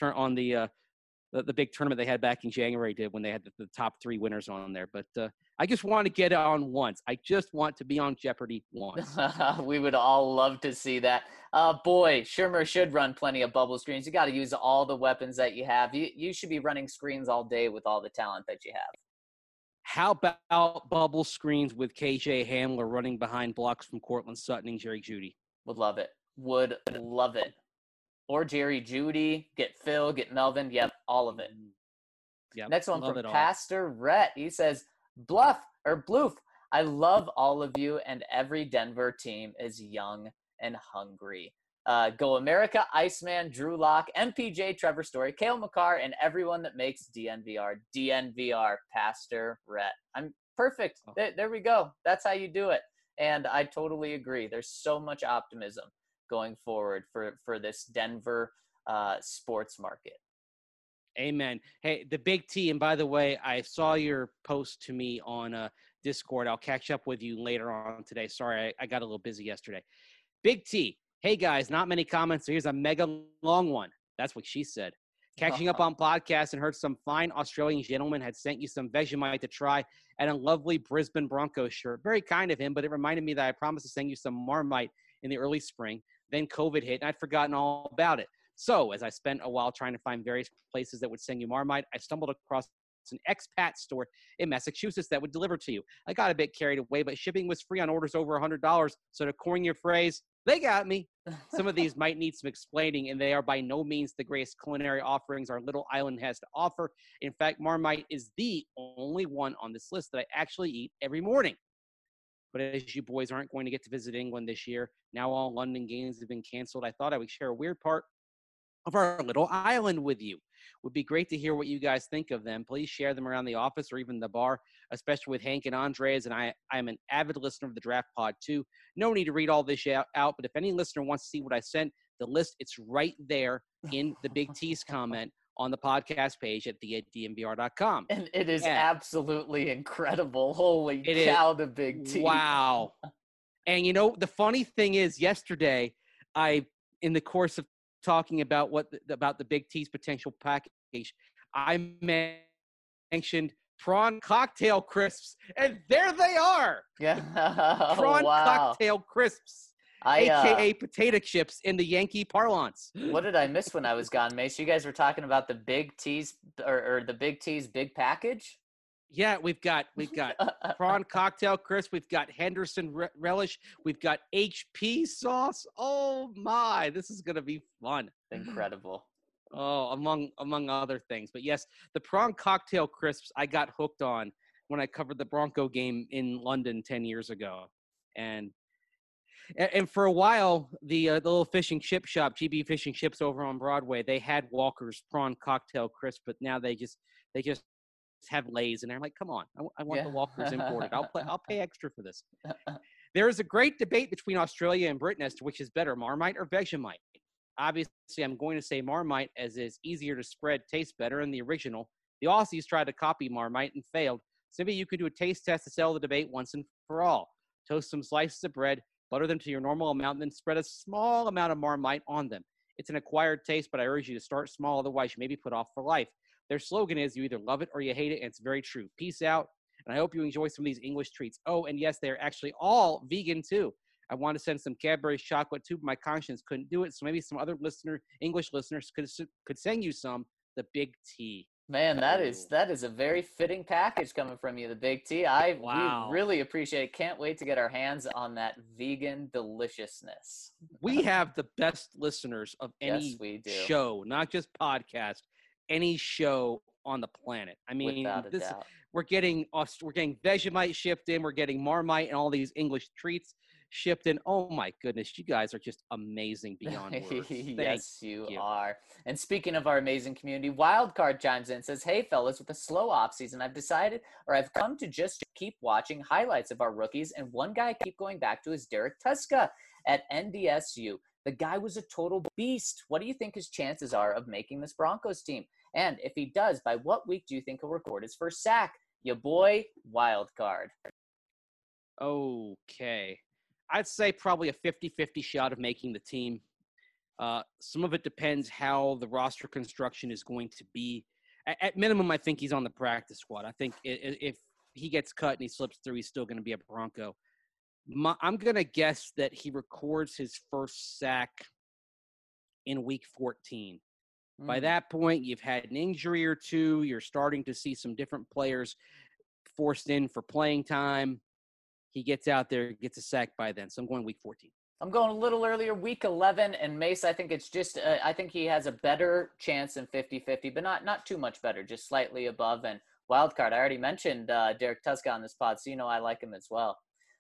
the big tournament they had back in January did when they had the top 3 winners on there. But I just want to get it on once. I just want to be on Jeopardy once. We would all love to see that. Boy, Shermer should run plenty of bubble screens. You got to use all the weapons that you have. You should be running screens all day with all the talent that you have. How about bubble screens with KJ Hamler running behind blocks from Cortland Sutton and Jerry Jeudy? Would love it. Would love it. Or Jerry Jeudy, get Phil, get Melvin. Yep, all of it. Yep, next one from Pastor Rhett. He says, Bloof. I love all of you, and every Denver team is young and hungry. Go America, Iceman, Drew Lock, MPJ, Trevor Story, Cale Makar, and everyone that makes DNVR. DNVR, Pastor Rhett. I'm perfect. There we go. That's how you do it. And I totally agree. There's so much optimism going forward for this Denver sports market. Amen. Hey, the Big T, and by the way, I saw your post to me on Discord. I'll catch up with you later on today. Sorry, I got a little busy yesterday. Big T, hey guys, not many comments, so here's a mega long one. That's what she said. Catching up on podcasts and heard some fine Australian gentleman had sent you some Vegemite to try and a lovely Brisbane Broncos shirt. Very kind of him, but it reminded me that I promised to send you some Marmite in the early spring. Then COVID hit, and I'd forgotten all about it. So as I spent a while trying to find various places that would send you Marmite, I stumbled across an expat store in Massachusetts that would deliver to you. I got a bit carried away, but shipping was free on orders over $100. So to coin your phrase, they got me. Some of these might need some explaining, and they are by no means the greatest culinary offerings our little island has to offer. In fact, Marmite is the only one on this list that I actually eat every morning. But as you boys aren't going to get to visit England this year, now all London games have been canceled, I thought I would share a weird part of our little island with you. Would be great to hear what you guys think of them. Please share them around the office or even the bar, especially with Hank and Andres. And I am an avid listener of the Draft Pod too. No need to read all this out, but if any listener wants to see what I sent, the list, it's right there in the Big T's comment on the podcast page at DNVR.com. And it is absolutely incredible. Holy cow, the Big T. Wow. And you know, the funny thing is yesterday, in the course of talking about about the Big T's potential package, I mentioned prawn cocktail crisps, and there they are. Yeah. Prawn cocktail crisps. AKA potato chips in the Yankee parlance. What did I miss when I was gone, Mace? You guys were talking about the Big T's or the Big T's big package? Yeah, we've got prawn cocktail crisp. We've got Henderson relish. We've got HP sauce. Oh my, this is gonna be fun. Incredible. Oh, among other things. But yes, the prawn cocktail crisps I got hooked on when I covered the Bronco game in London 10 years ago. And for a while, the little fish and chip shop, GB Fish and Chips over on Broadway, they had Walker's prawn cocktail crisp, but now they just have Lay's, and I'm like, come on, I want the Walker's imported. I'll pay extra for this. There is a great debate between Australia and Britain as to which is better, Marmite or Vegemite. Obviously, I'm going to say Marmite, as it's easier to spread, tastes better in the original. The Aussies tried to copy Marmite and failed. So maybe you could do a taste test to settle the debate once and for all. Toast some slices of bread, butter them to your normal amount, and then spread a small amount of Marmite on them. It's an acquired taste, but I urge you to start small, otherwise you may be put off for life. Their slogan is, you either love it or you hate it, and it's very true. Peace out, and I hope you enjoy some of these English treats. Oh, and yes, they're actually all vegan, too. I want to send some Cadbury's chocolate, too, but my conscience couldn't do it, so maybe some other English listeners could send you some, the Big T. Man, that is a very fitting package coming from you, the Big T. We really appreciate it. Can't wait to get our hands on that vegan deliciousness. We have the best listeners of any show, not just podcast, any show on the planet. I mean, we're getting Vegemite shipped in, we're getting Marmite and all these English treats shipped in. Oh my goodness, you guys are just amazing beyond words. Yes, you are. And speaking of our amazing community, Wildcard chimes in and says, hey fellas, with a slow off season, I've come to just keep watching highlights of our rookies, and one guy I keep going back to is Derek Tuska at NDSU. The guy was a total beast. What do you think his chances are of making this Broncos team? And if he does, by what week do you think he'll record his first sack? Ya boy, Wildcard. Okay. I'd say probably a 50-50 shot of making the team. Some of it depends how the roster construction is going to be. At minimum, I think he's on the practice squad. I think if he gets cut and he slips through, he's still going to be a Bronco. I'm going to guess that he records his first sack in week 14. By that point, you've had an injury or two. You're starting to see some different players forced in for playing time. He gets out there, gets a sack by then. So I'm going week 14. I'm going a little earlier, week 11. And Mace, I think it's just I think he has a better chance than 50-50, but not too much better, just slightly above. And Wildcard, I already mentioned Derek Tuska on this pod, so you know I like him as well.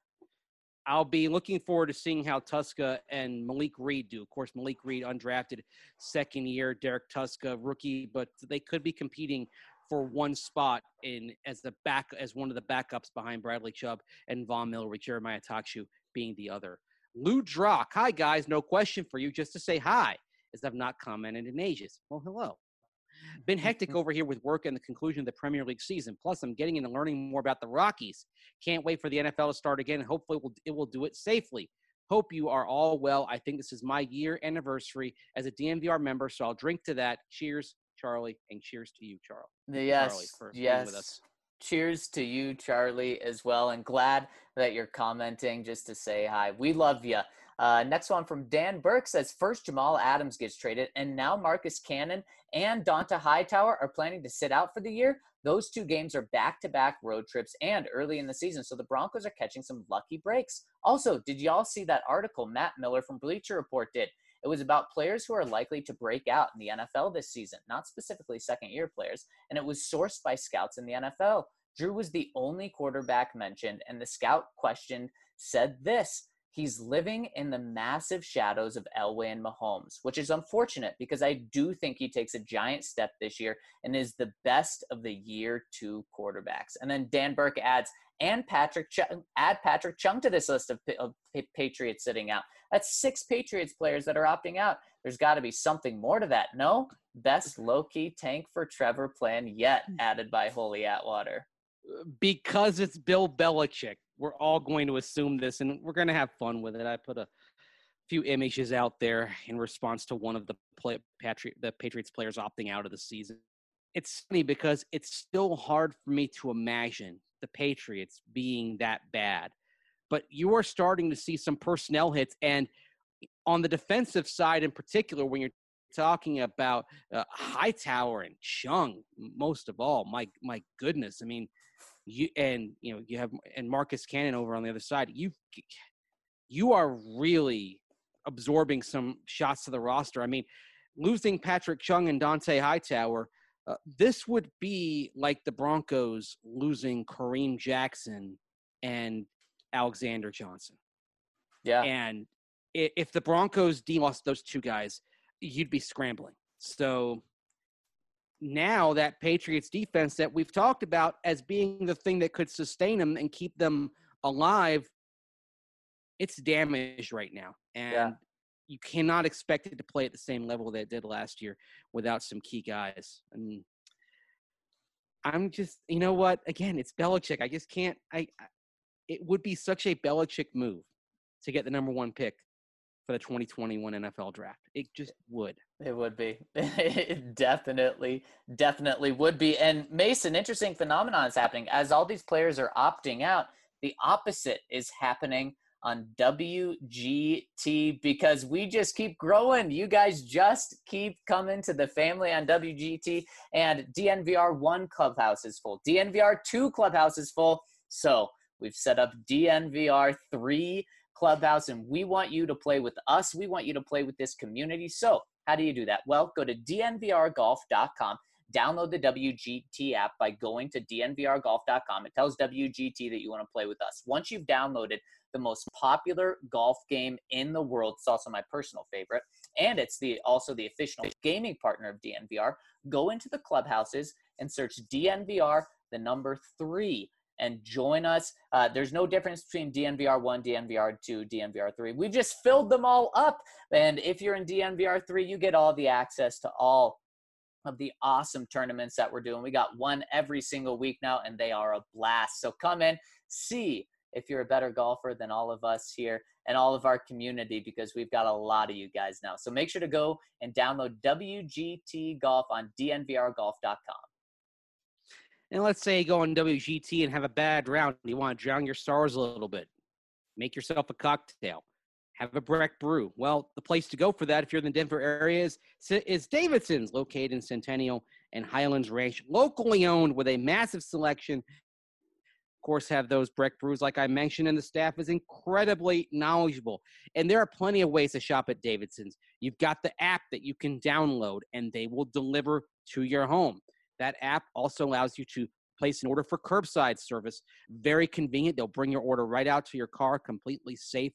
I'll be looking forward to seeing how Tuska and Malik Reed do. Of course, Malik Reed, undrafted second year, Derek Tuska, rookie, but they could be competing for one spot as one of the backups behind Bradley Chubb and Von Miller, with Jeremiah Takshu being the other. Lou Drock, hi guys, no question for you, just to say hi, as I've not commented in ages. Well, hello. Been hectic over here with work and the conclusion of the Premier League season. Plus, I'm getting into learning more about the Rockies. Can't wait for the NFL to start again, and hopefully it will do it safely. Hope you are all well. I think this is my year anniversary as a DNVR member, so I'll drink to that. Cheers, Charlie, and cheers to you, Charlie. Yes, Charlie, for being with us. Cheers to you, Charlie, as well, and glad that you're commenting just to say hi. We love you. Next one from Dan Burke says, first Jamal Adams gets traded, and now Marcus Cannon and Donta Hightower are planning to sit out for the year. Those two games are back-to-back road trips and early in the season, so the Broncos are catching some lucky breaks. Also, did y'all see that article Matt Miller from Bleacher Report did? It was about players who are likely to break out in the NFL this season, not specifically second-year players, and it was sourced by scouts in the NFL. Drew was the only quarterback mentioned, and the scout questioned said this: he's living in the massive shadows of Elway and Mahomes, which is unfortunate because I do think he takes a giant step this year and is the best of the year two quarterbacks. And then Dan Burke adds, and add Patrick Chung to this list of Patriots sitting out. That's 6 Patriots players that are opting out. There's got to be something more to that. No? Best low-key tank for Trevor plan yet, added by Holy Atwater. Because it's Bill Belichick, we're all going to assume this, and we're going to have fun with it. I put a few images out there in response to one of the Patriots players opting out of the season. It's funny because it's still hard for me to imagine the Patriots being that bad. but you are starting to see some personnel hits. And on the defensive side in particular, when you're talking about Hightower and Chung, most of all, my goodness. I mean, you have Marcus Cannon over on the other side. You are really absorbing some shots to the roster. I mean, losing Patrick Chung and Dante Hightower, this would be like the Broncos losing Kareem Jackson and Alexander Johnson. Yeah. And if the Broncos lost those two guys, you'd be scrambling. So now that Patriots defense that we've talked about as being the thing that could sustain them and keep them alive, it's damaged right now. And you cannot expect it to play at the same level that it did last year without some key guys. And I'm just, you know what? Again, it's Belichick. I just can't. It would be such a Belichick move to get the number 1 pick for the 2021 NFL draft. It just would. It would be. It definitely would be. And Mason, interesting phenomenon is happening. As all these players are opting out, the opposite is happening on WGT because we just keep growing. You guys just keep coming to the family on WGT, and DNVR 1 clubhouse is full. DNVR 2 clubhouse is full. So we've set up DNVR 3 clubhouse, and we want you to play with us. We want you to play with this community. So how do you do that? Well, go to dnvrgolf.com. Download the WGT app by going to dnvrgolf.com. It tells WGT that you want to play with us. Once you've downloaded the most popular golf game in the world, it's also my personal favorite, and it's also the official gaming partner of DNVR, go into the clubhouses and search DNVR, the number 3, and join us. There's no difference between DNVR 1, DNVR 2, DNVR 3. We've just filled them all up. And if you're in DNVR 3, you get all the access to all of the awesome tournaments that we're doing. We got one every single week now, and they are a blast. So come in, see if you're a better golfer than all of us here and all of our community, because we've got a lot of you guys now. So make sure to go and download WGT Golf on dnvrgolf.com. And let's say you go on WGT and have a bad round. You want to drown your stars a little bit. Make yourself a cocktail. Have a Breck brew. Well, the place to go for that, if you're in the Denver area, is Davidson's, located in Centennial and Highlands Ranch, locally owned with a massive selection. Of course, have those Breck brews, like I mentioned, and the staff is incredibly knowledgeable. And there are plenty of ways to shop at Davidson's. You've got the app that you can download, and they will deliver to your home. That app also allows you to place an order for curbside service. Very convenient. They'll bring your order right out to your car, completely safe,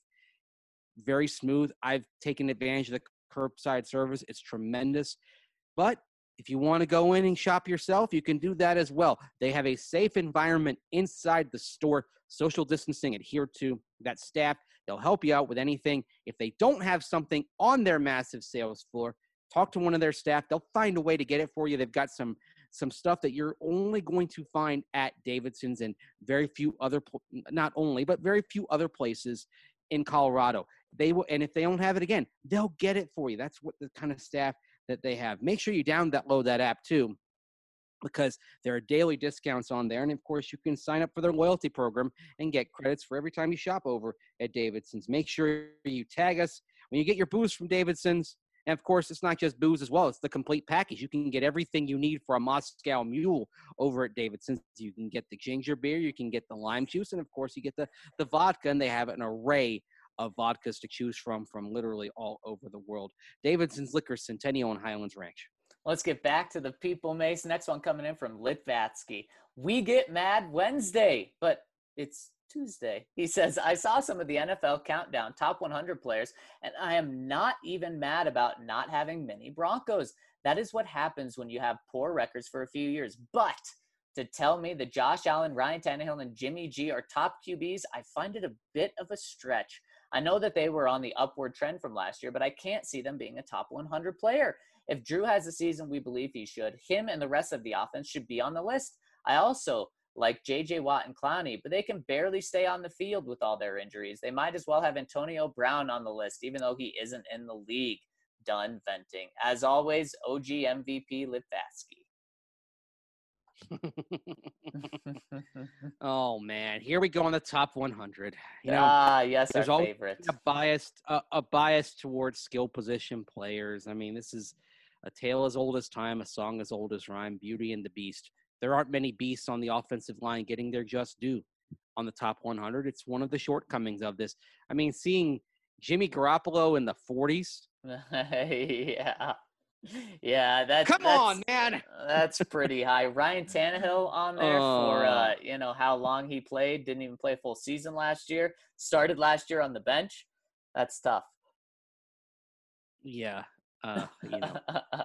very smooth. I've taken advantage of the curbside service. It's tremendous. But if you want to go in and shop yourself, you can do that as well. They have a safe environment inside the store, social distancing adhered to. That staff, they'll help you out with anything. If they don't have something on their massive sales floor, talk to one of their staff. They'll find a way to get it for you. They've got some stuff that you're only going to find at Davidson's and very few other, not only, but very few other places in Colorado. They will, and if they don't have it again, they'll get it for you. That's what the kind of staff that they have. Make sure you download that app too, because there are daily discounts on there. And of course, you can sign up for their loyalty program and get credits for every time you shop over at Davidson's. Make sure you tag us when you get your booze from Davidson's. And of course, it's not just booze as well. It's the complete package. You can get everything you need for a Moscow Mule over at Davidson's. You can get the ginger beer, you can get the lime juice, and of course, you get the vodka, and they have an array of vodkas to choose from literally all over the world. Davidson's Liquor, Centennial and Highlands Ranch. Let's get back to the people, Mace. Next one coming in from Litvatsky. We get mad Wednesday, but it's Tuesday. He says, I saw some of the NFL countdown top 100 players, and I am not even mad about not having many Broncos. That is what happens when you have poor records for a few years. But to tell me that Josh Allen, Ryan Tannehill, and Jimmy G are top QBs, I find it a bit of a stretch. I know that they were on the upward trend from last year, but I can't see them being a top 100 player. If Drew has the season we believe he should, him and the rest of the offense should be on the list. I also like J.J. Watt and Clowney, but they can barely stay on the field with all their injuries. They might as well have Antonio Brown on the list, even though he isn't in the league. Done venting. As always, OG MVP Litvatsky. Oh man, here we go on the top 100. You know, Yes, there's our always favorite. a bias towards skill position players. I mean, this is a tale as old as time, a song as old as rhyme, Beauty and the Beast. There aren't many beasts on the offensive line getting their just due on the top 100. It's one of the shortcomings of this. I mean, seeing Jimmy Garoppolo in the 40s. Yeah. Yeah, that's Come on, man. That's pretty high. Ryan Tannehill on there for you know how long he played. Didn't even play a full season last year. Started last year on the bench. That's tough. Yeah. You know,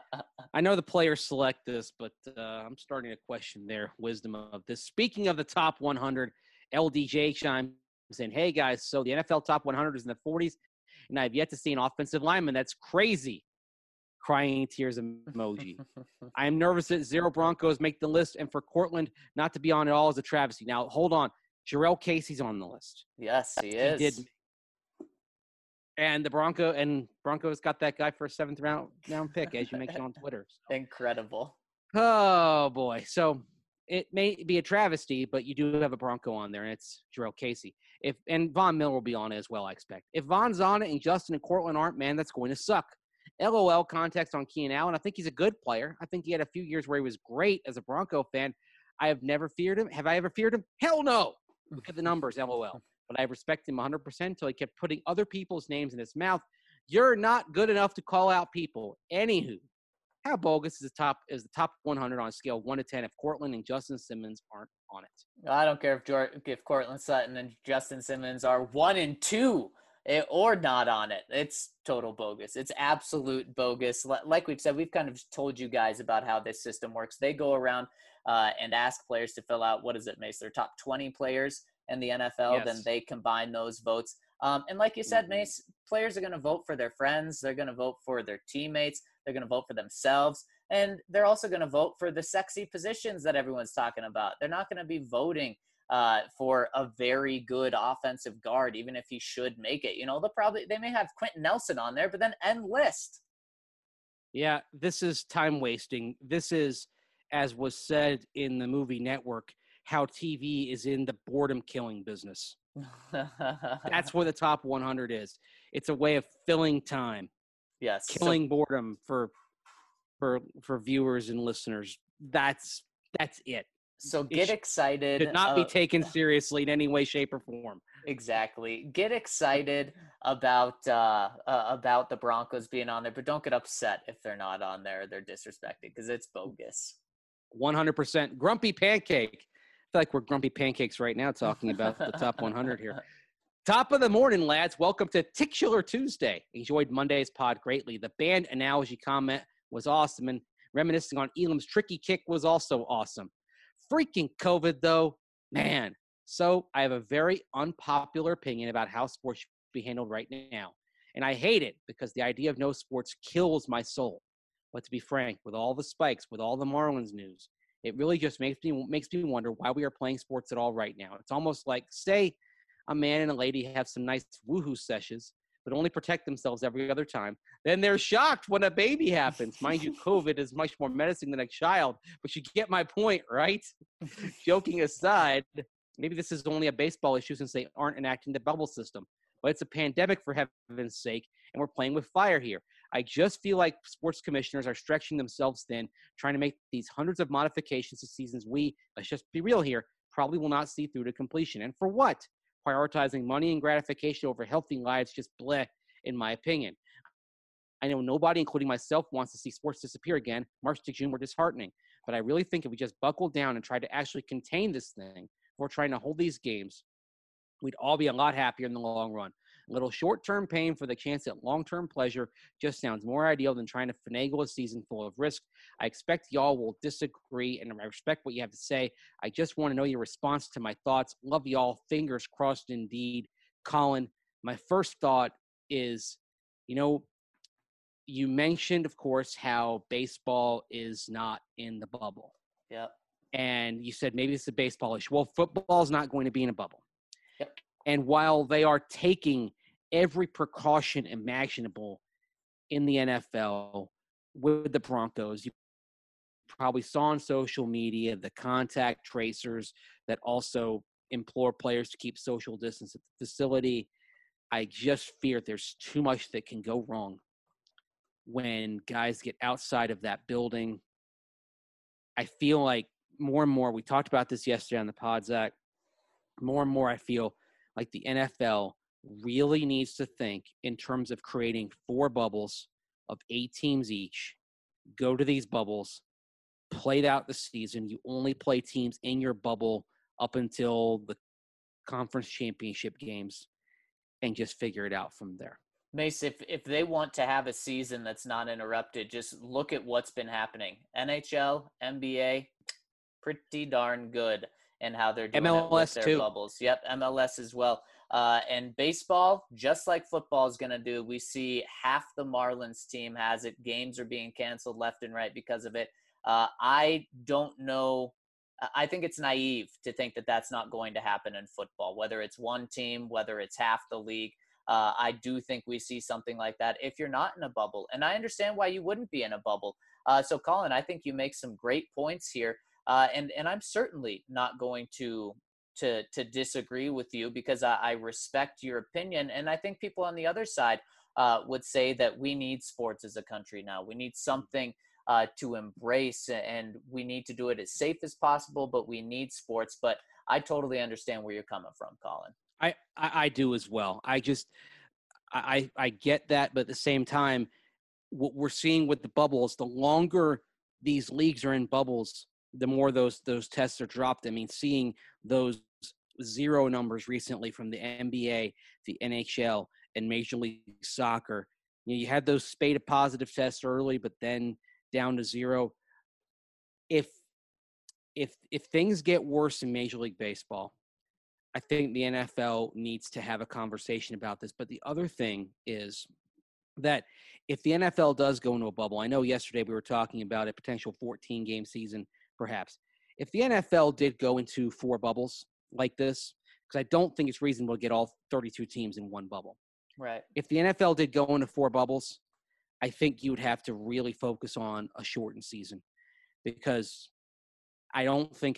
I know the players select this, but I'm starting to question their wisdom of this. Speaking of the top 100, LDJ chimes in, hey, guys, so the NFL top 100 is in the 40s, and I've yet to see an offensive lineman. That's crazy. Crying tears emoji. I am nervous that 0 Broncos make the list, and for Cortland not to be on at all is a travesty. Now, hold on. Jarrell Casey's on the list. Yes, he is. He did. And the Broncos got that guy for a 7th round pick, as you mentioned on Twitter. So. Incredible. Oh, boy. So it may be a travesty, but you do have a Bronco on there, and it's Jarrell Casey. And Von Miller will be on it as well, I expect. If Von's on it and Justin and Cortland aren't, man, that's going to suck. LOL context on Keenan Allen. I think he's a good player. I think he had a few years where he was great as a Bronco fan. I have never feared him. Have I ever feared him? Hell no. Look at the numbers, LOL. But I respect him 100% until he kept putting other people's names in his mouth. You're not good enough to call out people. Anywho, how bogus is the top 100 on a scale 1 to 10 if Cortland and Justin Simmons aren't on it? I don't care if Cortland Sutton and Justin Simmons are 1 and 2 or not on it. It's total bogus. It's absolute bogus. Like we've said, we've kind of told you guys about how this system works. They go around and ask players to fill out, what is it, Mace? Their top 20 players in the NFL, yes. Then they combine those votes. And like you said, Mace, players are going to vote for their friends. They're going to vote for their teammates. They're going to vote for themselves. And they're also going to vote for the sexy positions that everyone's talking about. They're not going to be voting for a very good offensive guard, even if he should make it. You know, they may have Quentin Nelson on there, but then end list. Yeah, this is time wasting. This is, as was said in the movie Network, how TV is in the boredom killing business. That's where the top 100 is. It's a way of filling time. Yes. Killing boredom for viewers and listeners. That's it. So get excited. Should not be taken seriously in any way, shape, or form. Exactly. Get excited about the Broncos being on there, but don't get upset if they're not on there. They're disrespected because it's bogus. 100%. Grumpy Pancake. I feel like we're Grumpy Pancakes right now talking about the top 100 here. Top of the morning, lads. Welcome to Titular Tuesday. Enjoyed Monday's pod greatly. The band analogy comment was awesome, and reminiscing on Elam's tricky kick was also awesome. Freaking COVID, though, man. So I have a very unpopular opinion about how sports should be handled right now. And I hate it because the idea of no sports kills my soul. But to be frank, with all the spikes, with all the Marlins news, it really just makes me wonder why we are playing sports at all right now. It's almost like, say a man and a lady have some nice woohoo sessions, but only protect themselves every other time. Then they're shocked when a baby happens. Mind you, COVID is much more menacing than a child, but you get my point, right? Joking aside, maybe this is only a baseball issue since they aren't enacting the bubble system. But it's a pandemic, for heaven's sake, and we're playing with fire here. I just feel like sports commissioners are stretching themselves thin, trying to make these hundreds of modifications to seasons we, let's just be real here, probably will not see through to completion. And for what? Prioritizing money and gratification over healthy lives, just bleh, in my opinion. I know nobody, including myself, wants to see sports disappear again. March to June were disheartening. But I really think if we just buckle down and try to actually contain this thing, we're trying to hold these games, we'd all be a lot happier in the long run. A little short-term pain for the chance at long-term pleasure just sounds more ideal than trying to finagle a season full of risk. I expect y'all will disagree, and I respect what you have to say. I just want to know your response to my thoughts. Love y'all. Fingers crossed indeed. Colin, my first thought is, you mentioned, of course, how baseball is not in the bubble. Yep. And you said maybe it's a baseball issue. Well, football is not going to be in a bubble. Yep. And while they are taking every precaution imaginable in the NFL with the Broncos, you probably saw on social media the contact tracers that also implore players to keep social distance at the facility. I just fear there's too much that can go wrong when guys get outside of that building. I feel like more and more, we talked about this yesterday on the pod, Zach, more and more I feel like the NFL really needs to think in terms of creating 4 bubbles of 8 teams each, go to these bubbles, play out the season. You only play teams in your bubble up until the conference championship games and just figure it out from there. Mace, if they want to have a season that's not interrupted, just look at what's been happening. NHL, NBA, pretty darn good in how they're doing MLS it with their too. bubbles. Yep, MLS as well. And baseball, just like football is going to do, we see half the Marlins team has it. Games are being canceled left and right because of it. I don't know. I think it's naive to think that that's not going to happen in football, whether it's one team, whether it's half the league. I do think we see something like that if you're not in a bubble. And I understand why you wouldn't be in a bubble. So, Colin, I think you make some great points here. And I'm certainly not going to disagree with you because I respect your opinion. And I think people on the other side would say that we need sports as a country now. We need something to embrace, and we need to do it as safe as possible, but we need sports. But I totally understand where you're coming from, Colin. I do as well. I get that, but at the same time, what we're seeing with the bubbles, the longer these leagues are in bubbles, the more those tests are dropped. I mean, seeing those 0 numbers recently from the NBA, the NHL, and Major League Soccer. You had those spate of positive tests early, but then down to 0. If things get worse in Major League Baseball, I think the NFL needs to have a conversation about this. But the other thing is that if the NFL does go into a bubble, I know yesterday we were talking about a potential 14-game season, perhaps. If the NFL did go into 4 bubbles like this, because I don't think it's reasonable to get all 32 teams in one bubble. Right. If the NFL did go into 4 bubbles, I think you would have to really focus on a shortened season, because I don't think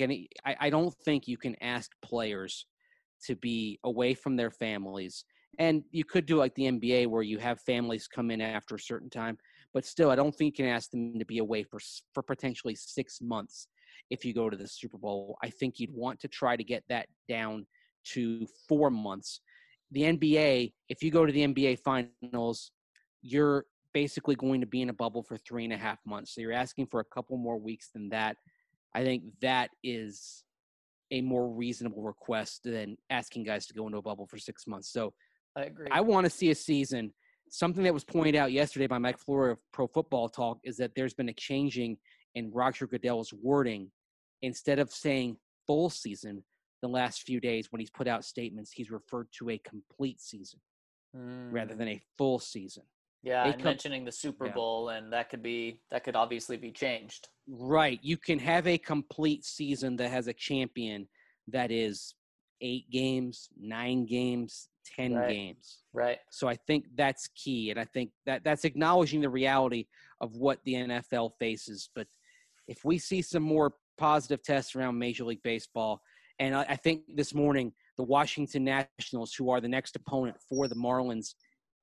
you can ask players to be away from their families. And you could do like the NBA where you have families come in after a certain time, but still, I don't think you can ask them to be away for potentially 6 months if you go to the Super Bowl. I think you'd want to try to get that down to 4 months. The NBA, if you go to the NBA finals, you're basically going to be in a bubble for 3.5 months. So you're asking for a couple more weeks than that. I think that is a more reasonable request than asking guys to go into a bubble for 6 months. So I agree. I want to see a season. Something that was pointed out yesterday by Mike Florio of Pro Football Talk is that there's been a changing in Roger Goodell's wording. Instead of saying full season the last few days when he's put out statements, he's referred to a complete season rather than a full season. Yeah, and mentioning the Super Bowl, and that could obviously be changed. Right. You can have a complete season that has a champion that is 8 games, 9 games, 10 games. Right. So I think that's key, and I think that's acknowledging the reality of what the NFL faces. But if we see some more positive tests around Major League Baseball, and I think this morning the Washington Nationals, who are the next opponent for the Marlins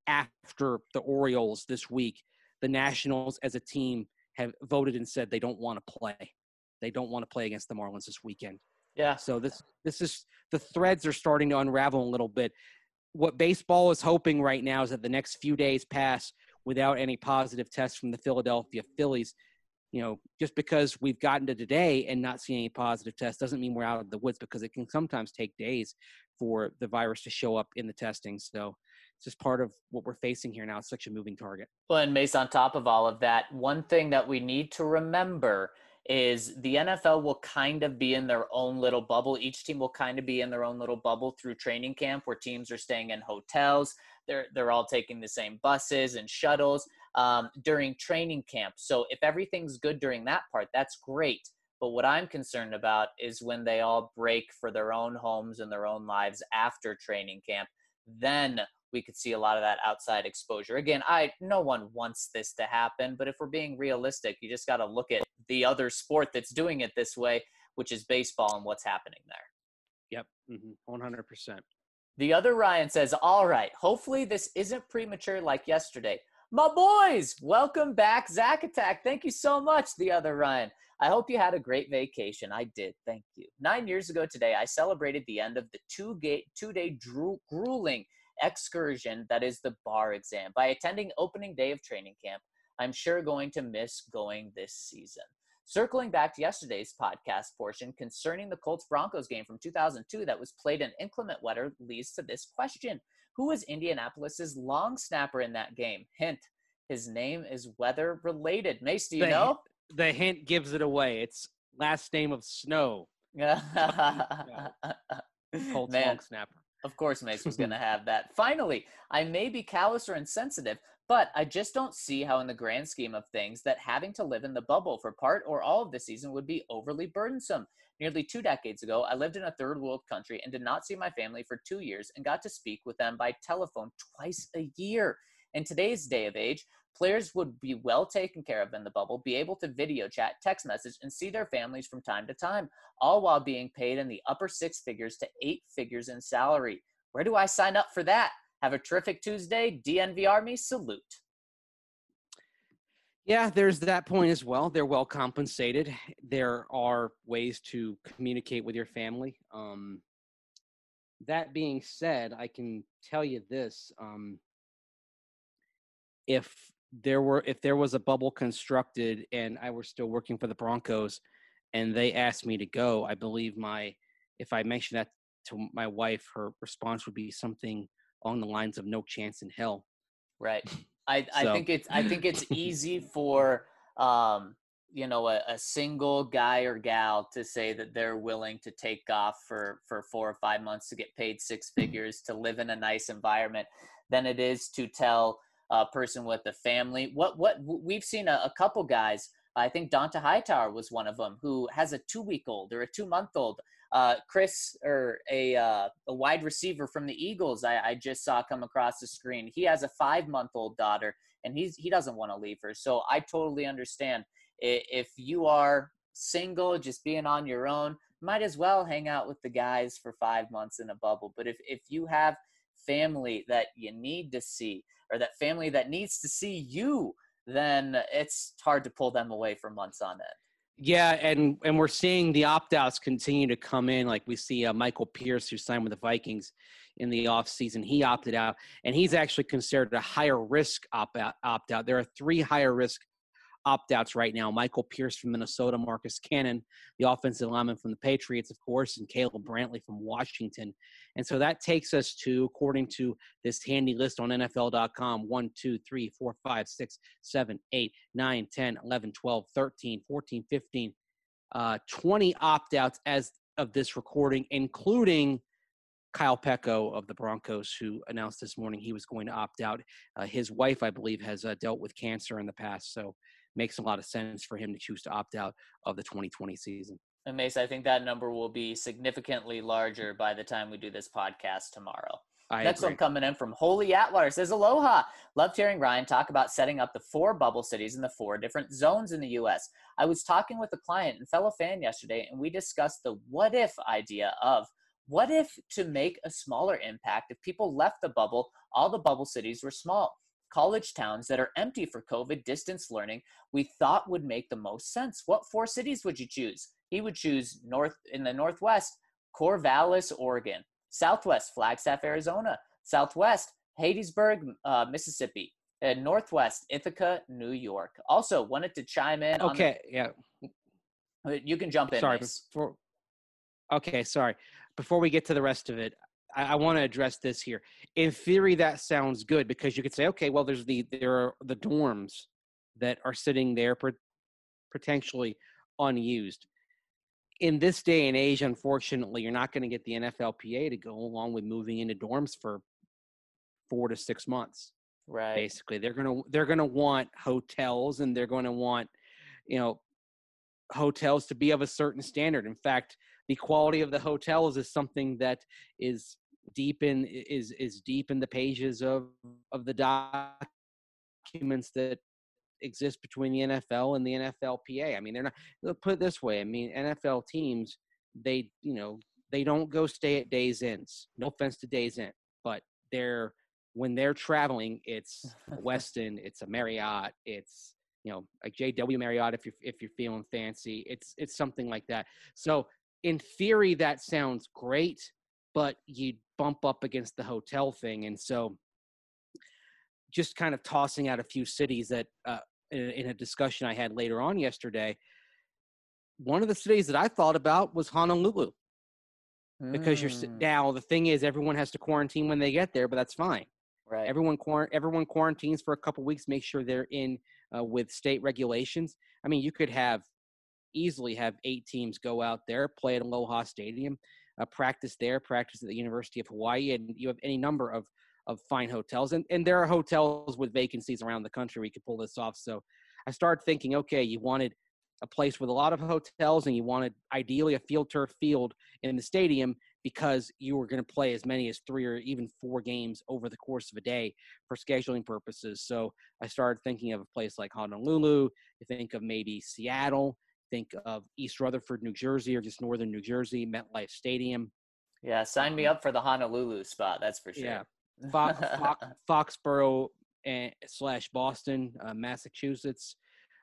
after the Orioles this week, the Nationals as a team have voted and said they don't want to play. They don't want to play against the Marlins this weekend. Yeah. So this is, the threads are starting to unravel a little bit. What baseball is hoping right now is that the next few days pass without any positive tests from the Philadelphia Phillies. You know, just because we've gotten to today and not seeing any positive tests doesn't mean we're out of the woods, because it can sometimes take days for the virus to show up in the testing. So it's just part of what we're facing here now. It's such a moving target. Well, and Mace, on top of all of that, one thing that we need to remember is the NFL will kind of be in their own little bubble. Each team will kind of be in their own little bubble through training camp, where teams are staying in hotels. They're all taking the same buses and shuttles during training camp. So if everything's good during that part, that's great. But what I'm concerned about is when they all break for their own homes and their own lives after training camp, then we could see a lot of that outside exposure. Again, no one wants this to happen, but if we're being realistic, you just got to look at the other sport that's doing it this way, which is baseball and what's happening there. Yep, 100%. The other Ryan says, all right, hopefully this isn't premature like yesterday. My boys, welcome back, Zach Attack. Thank you so much, the other Ryan. I hope you had a great vacation. I did. Thank you. 9 years ago today, I celebrated the end of the two-day grueling excursion that is the bar exam by attending opening day of training camp. I'm sure going to miss going this season. Circling back to yesterday's podcast portion concerning the Colts-Broncos game from 2002 that was played in inclement weather leads to this question. Who was Indianapolis's long snapper in that game? Hint, his name is weather-related. Mace, do you know? The hint gives it away. It's last name of Snow. Colts long snapper. Of course Mace was going to have that. Finally, I may be callous or insensitive, but I just don't see how in the grand scheme of things that having to live in the bubble for part or all of the season would be overly burdensome. Nearly 2 decades ago, I lived in a third world country and did not see my family for 2 years and got to speak with them by telephone twice a year. In today's day of age, players would be well taken care of in the bubble, be able to video chat, text message, and see their families from time to time, all while being paid in the upper 6 figures to 8 figures in salary. Where do I sign up for that? Have a terrific Tuesday. DNV Army, salute. Yeah, there's that point as well. They're well compensated. There are ways to communicate with your family. That being said, I can tell you this. If there was a bubble constructed and I were still working for the Broncos and they asked me to go, I believe if I mentioned that to my wife, her response would be something along the lines of no chance in hell. Right. I think it's easy for a single guy or gal to say that they're willing to take off for 4 or 5 months to get paid 6 figures to live in a nice environment than it is to tell a person with a family. What we've seen a couple guys. I think Donta Hightower was one of them who has a 2-week-old or a 2-month-old. Chris, or a wide receiver from the Eagles, I just saw come across the screen. He has a 5-month-old daughter, and he doesn't want to leave her. So I totally understand. If you are single, just being on your own, might as well hang out with the guys for 5 months in a bubble. But if you have family that you need to see, or that family that needs to see you, then it's hard to pull them away for months on end. Yeah, and we're seeing the opt-outs continue to come in. Like we see Michael Pierce, who signed with the Vikings in the offseason. He opted out, and he's actually considered a higher risk opt-out. There are 3 higher risk opt-outs right now. Michael Pierce from Minnesota, Marcus Cannon, the offensive lineman from the Patriots, of course, and Caleb Brantley from Washington. And so that takes us to, according to this handy list on NFL.com, 1, 2, 3, 4, 5, 6, 7, 8, 9, 10, 11, 12, 13, 14, 15, 20 opt-outs as of this recording, including Kyle Pecco of the Broncos, who announced this morning he was going to opt out. His wife, I believe, has dealt with cancer in the past, so makes a lot of sense for him to choose to opt out of the 2020 season. And Mace, I think that number will be significantly larger by the time we do this podcast tomorrow. Next one coming in from Holy Atwater says, aloha. Loved hearing Ryan talk about setting up the 4 bubble cities in the 4 different zones in the U.S. I was talking with a client and fellow fan yesterday, and we discussed the what if idea of what if to make a smaller impact if people left the bubble, all the bubble cities were small. College towns that are empty for COVID distance learning, we thought would make the most sense. What 4 cities would you choose? He would choose in the Northwest, Corvallis, Oregon. Southwest, Flagstaff, Arizona. Southwest, Hattiesburg, Mississippi. And Northwest, Ithaca, New York. Also, wanted to chime in. You can jump in. Sorry. Before we get to the rest of it, I want to address this here. In theory, that sounds good because you could say, okay, well, there are the dorms that are sitting there potentially unused. In this day and age, unfortunately, you're not going to get the NFLPA to go along with moving into dorms for 4 to 6 months. Right. Basically, they're going to want hotels, and they're going to want, hotels to be of a certain standard. In fact, the quality of the hotels is something that is deep in the pages of the documents that exists between the NFL and the NFLPA. I mean, they're not. They'll put it this way. I mean, NFL teams, they don't go stay at Days Inns. No offense to Days Inn, but when they're traveling, it's a Westin, it's a Marriott, it's like JW Marriott if you're feeling fancy. It's something like that. So in theory, that sounds great, but you bump up against the hotel thing, and so just kind of tossing out a few cities that in a discussion I had later on yesterday. One of the cities that I thought about was Honolulu. Because now the thing is, everyone has to quarantine when they get there, but that's fine. Right. Everyone quarantines for a couple weeks, make sure they're in with state regulations. I mean, you could easily have 8 teams go out there, play at Aloha Stadium, practice there, practice at the University of Hawaii, and you have any number of fine hotels. And there are hotels with vacancies around the country where you could pull this off. So I started thinking, okay, you wanted a place with a lot of hotels, and you wanted ideally a field turf field in the stadium because you were going to play as many as 3 or even 4 games over the course of a day for scheduling purposes. So I started thinking of a place like Honolulu. You think of maybe Seattle, think of East Rutherford, New Jersey, or just northern New Jersey, MetLife Stadium. Yeah, sign me up for the Honolulu spot. That's for sure. Yeah, Foxborough / Boston, Massachusetts.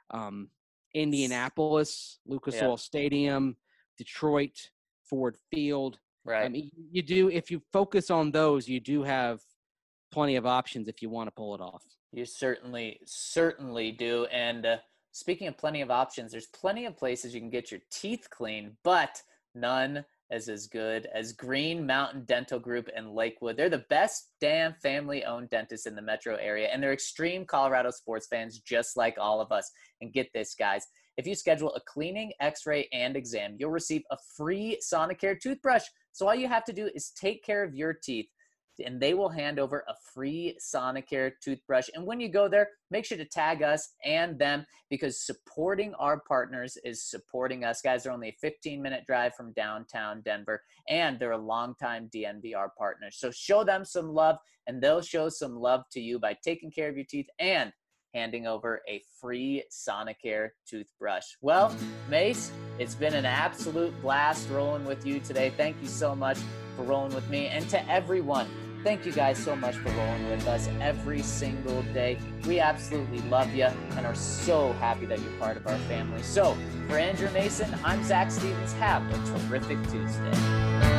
Indianapolis, Lucas Oil Stadium, Detroit, Ford Field. Right. I mean, you do, if you focus on those, you do have plenty of options if you want to pull it off. You certainly do. And speaking of plenty of options, there's plenty of places you can get your teeth cleaned, but none as good as Green Mountain Dental Group in Lakewood. They're the best damn family-owned dentists in the metro area, and they're extreme Colorado sports fans just like all of us. And get this, guys. If you schedule a cleaning, x-ray, and exam, you'll receive a free Sonicare toothbrush. So all you have to do is take care of your teeth, and they will hand over a free Sonicare toothbrush. And when you go there, make sure to tag us and them, because supporting our partners is supporting us. Guys, they're only a 15-minute drive from downtown Denver, and they're a longtime DNVR partner. So show them some love, and they'll show some love to you by taking care of your teeth and handing over a free Sonicare toothbrush. Well, Mace, it's been an absolute blast rolling with you today. Thank you so much for rolling with me. And to everyone, thank you guys so much for rolling with us every single day. We absolutely love you and are so happy that you're part of our family. So for Andrew Mason, I'm Zach Stevens. Have a terrific Tuesday.